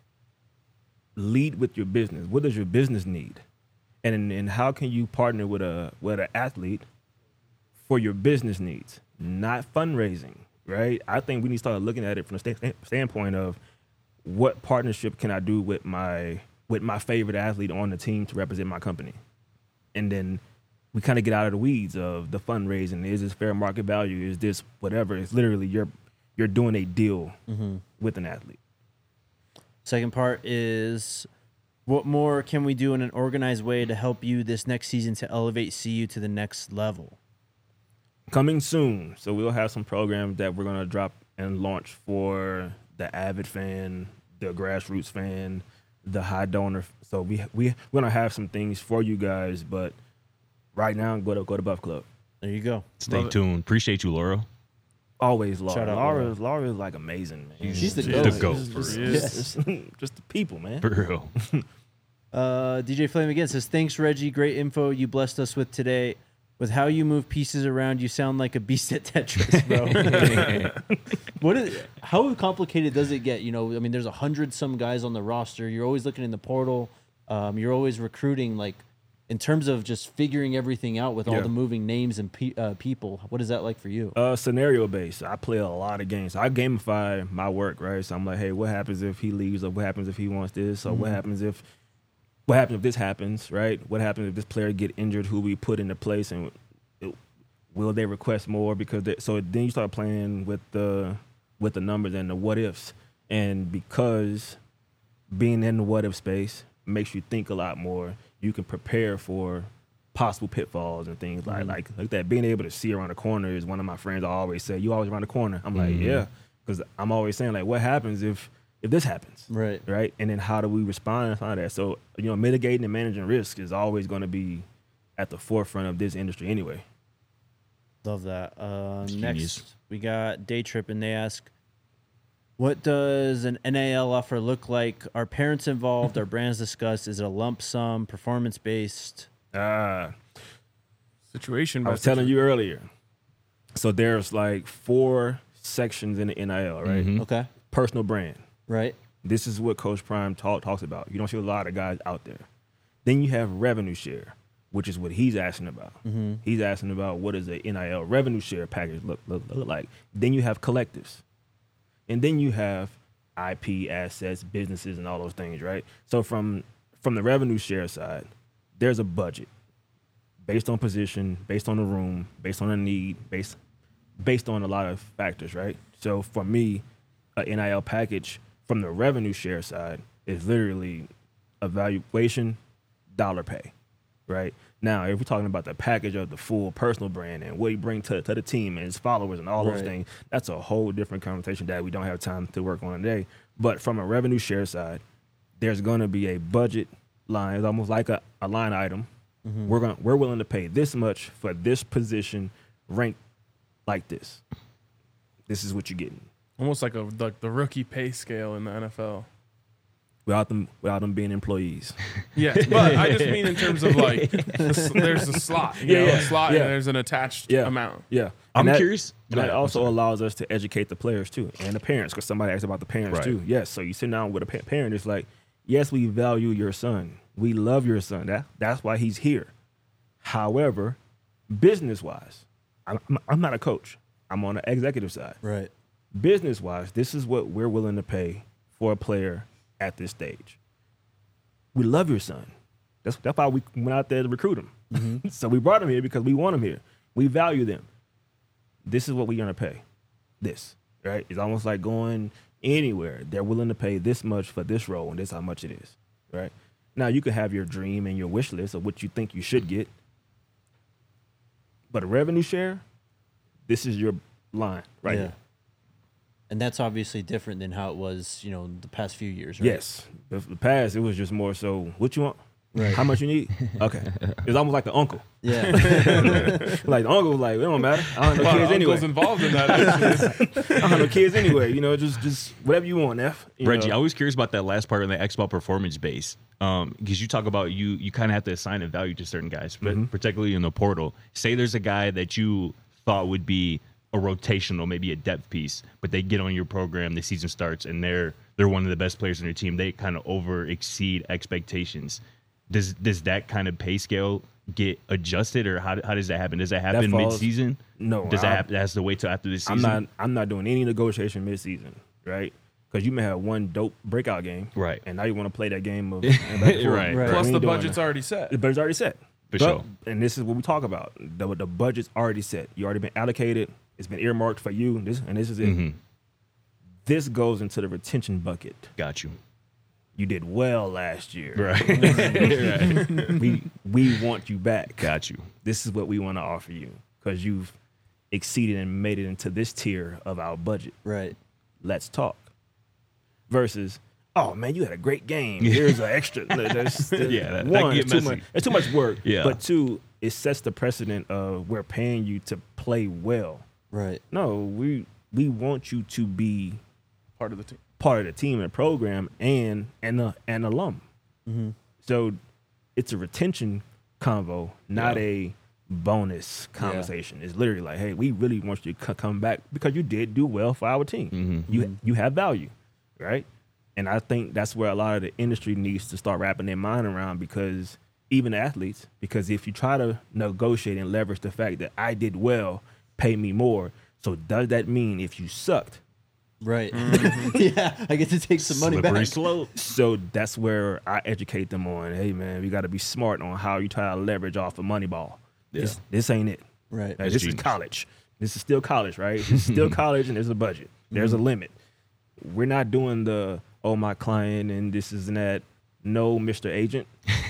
Speaker 3: lead with your business. What does your business need? And and how can you partner with a with an athlete for your business needs, not fundraising, right? I think we need to start looking at it from the sta- standpoint of what partnership can I do with my with my favorite athlete on the team to represent my company, and then we kind of get out of the weeds of the fundraising. Is this fair market value? Is this whatever? It's literally you're you're doing a deal with an athlete.
Speaker 1: Second part is, what more can we do in an organized way to help you this next season to elevate C U to the next level?
Speaker 3: Coming soon. So we'll have some programs that we're going to drop and launch for the avid fan, the grassroots fan, the high donor. So we we we're going to have some things for you guys, but right now go to go to Buff Club.
Speaker 1: There you go.
Speaker 4: Stay
Speaker 2: Love it.
Speaker 4: tuned. Appreciate you, Laura.
Speaker 3: Always Laura.
Speaker 1: Shout out
Speaker 3: Laura,
Speaker 1: Laura.
Speaker 3: is- Laura is like amazing, man.
Speaker 1: She's the
Speaker 4: The
Speaker 1: goat.
Speaker 4: goat,
Speaker 3: Just,
Speaker 4: for
Speaker 3: just,
Speaker 2: real.
Speaker 3: just- just the people, man.
Speaker 4: For real.
Speaker 1: Uh, D J Flame again says, thanks, Reggie. Great info you blessed us with today. With how you move pieces around, you sound like a beast at Tetris, bro. What is? How complicated does it get? You know, I mean, there's a hundred some guys on the roster. You're always looking in the portal. Um, you're always recruiting. Like, in terms of just figuring everything out with all
Speaker 3: Yeah.
Speaker 1: the moving names and pe- uh, people. What is that like for you?
Speaker 3: Uh, scenario based. I play a lot of games. So I gamify my work, right? So I'm like, hey, what happens if he leaves, or what happens if he wants this, or what happens if, what happens if this happens, right? What happens if this player get injured? Who we put into place, and it, will they request more? Because they, so then you start playing with the with the numbers and the what ifs, and because being in the what if space makes you think a lot more. You can prepare for possible pitfalls and things like like like that. Being able to see around the corner is one of my friends. I always say, "You always around the corner." I'm like, "Yeah," because I'm always saying like, "What happens if if this happens?"
Speaker 1: Right.
Speaker 3: Right, and then how do we respond and all that? So you know, mitigating and managing risk is always going to be at the forefront of this industry anyway.
Speaker 1: Love that. Uh,
Speaker 4: Genius.
Speaker 1: next, we got Day Trip, and they ask, what does an N I L offer look like? Are parents involved? Are brands discussed? Is it a lump sum, performance based?
Speaker 3: Ah,
Speaker 2: Situation.
Speaker 3: I was telling you earlier. So there's like four sections in the N I L, right?
Speaker 4: Mhm.
Speaker 1: Okay.
Speaker 3: Personal brand.
Speaker 1: Right.
Speaker 3: This is what Coach Prime talk, talks about. You don't see a lot of guys out there. Then you have revenue share, which is what he's asking about. He's asking about what does the N I L revenue share package look, look, look like. Then you have collectives. And then you have I P, assets, businesses, and all those things, right? So from from the revenue share side, there's a budget based on position, based on the room, based on a need, based based on a lot of factors, right? So for me, an N I L package from the revenue share side is literally evaluation, dollar pay, right? Now, if we're talking about the package of the full personal brand and what he brings to, to the team and his followers and all those
Speaker 1: Right.
Speaker 3: things, that's a whole different conversation that we don't have time to work on today. But from a revenue share side, there's going to be a budget line. It's almost like a, a line item. We're going we're willing to pay this much for this position ranked like this. This is what you're getting.
Speaker 2: Almost like a like the rookie pay scale in the N F L.
Speaker 3: Without them without them being employees.
Speaker 2: Yes, but I just mean in terms of like the, s- there's a slot, you
Speaker 3: Yeah,
Speaker 2: know,
Speaker 3: yeah,
Speaker 2: a slot,
Speaker 3: yeah.
Speaker 2: and there's an attached
Speaker 3: Yeah.
Speaker 2: amount.
Speaker 3: Yeah.
Speaker 4: I'm
Speaker 3: And that-
Speaker 4: curious.
Speaker 3: And
Speaker 4: Go
Speaker 3: that
Speaker 4: ahead. I'm
Speaker 3: also
Speaker 4: sorry.
Speaker 3: allows us to educate the players too and the parents, because somebody asked about the parents
Speaker 4: Right.
Speaker 3: too. Yes. So you sit down with a pa- parent, it's like, yes, we value your son. We love your son. That that's why he's here. However, business wise, I'm, I'm- I'm not a coach. I'm on the executive side.
Speaker 1: Right.
Speaker 3: Business wise, this is what we're willing to pay for a player at this stage. We love your son. That's that's why we went out there to recruit him. So we brought him here because we want him here. We value them. This is what we're gonna pay. this, right? It's almost like going anywhere. They're willing to pay this much for this role, and this is how much it is, right? Now, you can have your dream and your wish list of what you think you should get, but a revenue share, this is your line right
Speaker 1: yeah.
Speaker 3: here.
Speaker 1: And that's obviously different than how it was, you know, the past few years, right?
Speaker 3: Yes. The, the past, it was just more so, what you want?
Speaker 1: Right.
Speaker 3: How much you need? Okay. It's almost like the uncle.
Speaker 1: Yeah.
Speaker 3: Like the uncle was like, it don't matter. I don't have no
Speaker 2: A lot
Speaker 3: kids
Speaker 2: of
Speaker 3: anyway.
Speaker 2: uncles involved in that. Actually.
Speaker 3: I don't have no kids anyway. You know, just just whatever you want, F. You
Speaker 4: Reggie,
Speaker 3: know?
Speaker 4: I was curious about that last part on the X-Ball performance base. Um, because you talk about you you kind of have to assign a value to certain guys, but
Speaker 3: Mm-hmm.
Speaker 4: particularly in the portal. Say there's a guy that you thought would be a rotational, maybe a depth piece, but they get on your program, the season starts, and they're they're one of the best players on your team. They kind of over exceed expectations. Does does that kind of pay scale get adjusted, or how how does that happen? Does that happen
Speaker 3: falls-
Speaker 4: mid season?
Speaker 3: No,
Speaker 4: Does that
Speaker 3: I-
Speaker 4: happen? That has to wait till after the
Speaker 3: I'm
Speaker 4: season.
Speaker 3: not I'm not doing any negotiation mid season, right? Because you may have one dope breakout game,
Speaker 4: Right.
Speaker 3: And now you want to play that game of and back and forth.
Speaker 4: Right,
Speaker 1: right.
Speaker 2: Plus,
Speaker 3: We
Speaker 2: the
Speaker 3: ain't doing
Speaker 2: budget's
Speaker 3: that.
Speaker 2: already set.
Speaker 3: The budget's already set.
Speaker 4: For
Speaker 3: But-
Speaker 4: sure.
Speaker 3: And this is what we talk about. The, the budget's already set. You already been allocated. It's been earmarked for you. This and this is it.
Speaker 4: Mhm.
Speaker 3: This goes into the retention bucket.
Speaker 4: Got you.
Speaker 3: You did well last year.
Speaker 4: Right. right.
Speaker 3: We we want you back.
Speaker 4: Got you.
Speaker 3: This is what we want to offer you because you've exceeded and made it into this tier of our budget.
Speaker 1: Right.
Speaker 3: Let's talk. Versus, oh man, you had a great game. Here's an extra. There's, there's
Speaker 4: Yeah, that- that
Speaker 3: one,
Speaker 4: get
Speaker 3: it's too
Speaker 4: messy.
Speaker 3: much. It's too much work.
Speaker 4: Yeah.
Speaker 3: But two, it sets the precedent of we're paying you to play well.
Speaker 1: Right.
Speaker 3: No, we we want you to be
Speaker 2: Part of the team.
Speaker 3: part of the team and the program and and a, an alum.
Speaker 1: Mm-hmm.
Speaker 3: So it's a retention convo, not
Speaker 4: Yeah.
Speaker 3: a bonus conversation. It's literally like, hey, we really want you to c- come back because you did do well for our team.
Speaker 4: Mhm.
Speaker 3: You you have value, right? And I think that's where a lot of the industry needs to start wrapping their mind around because even athletes, because if you try to negotiate and leverage the fact that I did well, pay me more. So does that mean if you sucked?
Speaker 1: Right. Yeah. I get to take some money
Speaker 4: Slippery
Speaker 1: back.
Speaker 4: slope.
Speaker 3: So that's where I educate them on, hey man, we got to be smart on how you try to leverage off of Moneyball. This, this ain't it.
Speaker 1: Right.
Speaker 3: Like,
Speaker 4: That's
Speaker 3: this
Speaker 4: genius.
Speaker 3: is college. This is still college, right? This is still college, and there's a budget. There's a limit. We're not doing the oh my client and this is and that. No, Mister Agent.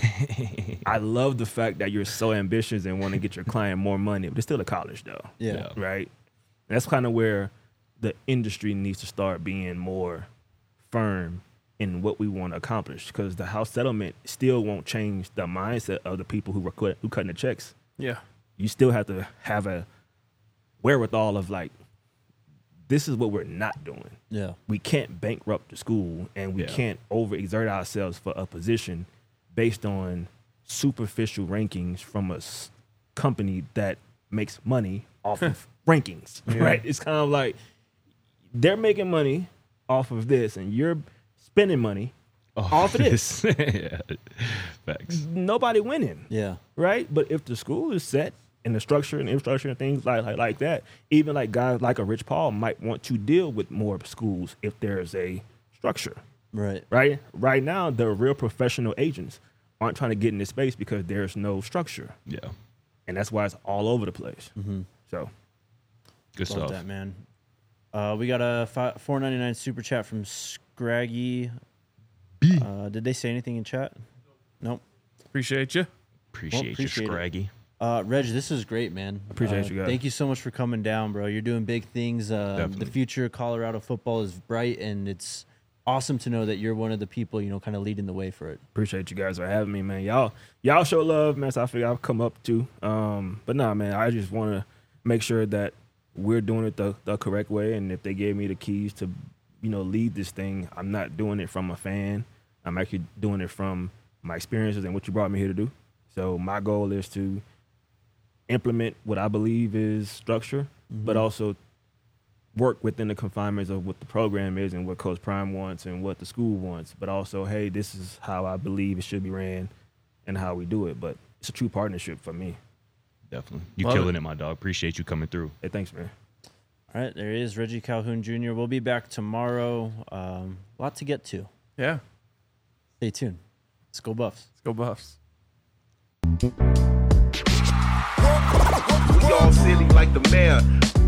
Speaker 3: I love the fact that you're so ambitious and want to get your client more money, but it's still a college though,
Speaker 1: Yeah.
Speaker 4: Yeah.
Speaker 3: right? And that's kind of where the industry needs to start being more firm in what we want to accomplish because the house settlement still won't change the mindset of the people who were cut, who cutting the checks.
Speaker 2: Yeah.
Speaker 3: You still have to have a wherewithal of like, this is what we're not doing.
Speaker 1: Yeah.
Speaker 3: We can't bankrupt the school and we
Speaker 4: Yeah.
Speaker 3: can't overexert ourselves for a position based on superficial rankings from a s- company that makes money off of rankings, right? It's kind of like they're making money off of this and you're spending money off of this.
Speaker 4: yeah. Facts.
Speaker 3: Nobody winning.
Speaker 1: Yeah.
Speaker 3: Right? But if the school is set and the structure and infrastructure and things like, like like that, even like guys like a Rich Paul might want to deal with more schools if there's a structure.
Speaker 1: Right.
Speaker 3: Right? Right now, the real professional agents aren't trying to get in this space because there's no structure.
Speaker 4: Yeah.
Speaker 3: And that's why it's all over the place.
Speaker 1: Mm-hmm.
Speaker 3: So
Speaker 4: Good
Speaker 1: Love
Speaker 4: stuff.
Speaker 1: that, man. Uh, we got a fi- four ninety-nine super chat from Scraggy. Uh, did they say anything in chat? Nope.
Speaker 2: Appreciate you.
Speaker 4: Appreciate,
Speaker 1: Well, appreciate
Speaker 4: you,
Speaker 1: it.
Speaker 4: Scraggy.
Speaker 1: Uh, Reg, this is great, man.
Speaker 3: Appreciate
Speaker 1: Uh,
Speaker 3: you guys.
Speaker 1: Thank you so much for coming down, bro. You're doing big things. Uh, the
Speaker 4: Definitely.
Speaker 1: future of Colorado football is bright, and it's awesome to know that you're one of the people, you know, kind of leading the way for it.
Speaker 3: appreciate you guys for having me, man. Y'all y'all show love, man. So I figure I'll come up too. Um, but nah, man, I just want to make sure that we're doing it the, the correct way. And if they gave me the keys to, you know, lead this thing, I'm not doing it from a fan. I'm actually doing it from my experiences and what you brought me here to do. So my goal is to implement what I believe is structure, but also work within the confinements of what the program is and what Coach Prime wants and what the school wants. But also, hey, this is how I believe it should be ran and how we do it. But it's a true partnership for me.
Speaker 4: Definitely. You
Speaker 2: Love
Speaker 4: killing
Speaker 2: it.
Speaker 4: it, my dog. Appreciate you coming through.
Speaker 3: Hey, thanks, man.
Speaker 1: All right, there is Reggie Calhoun Junior We'll be back tomorrow. Um, a lot to get to.
Speaker 2: Yeah.
Speaker 1: Stay tuned. Let's go Buffs.
Speaker 2: Let's go Buffs.
Speaker 5: We all silly like the mayor.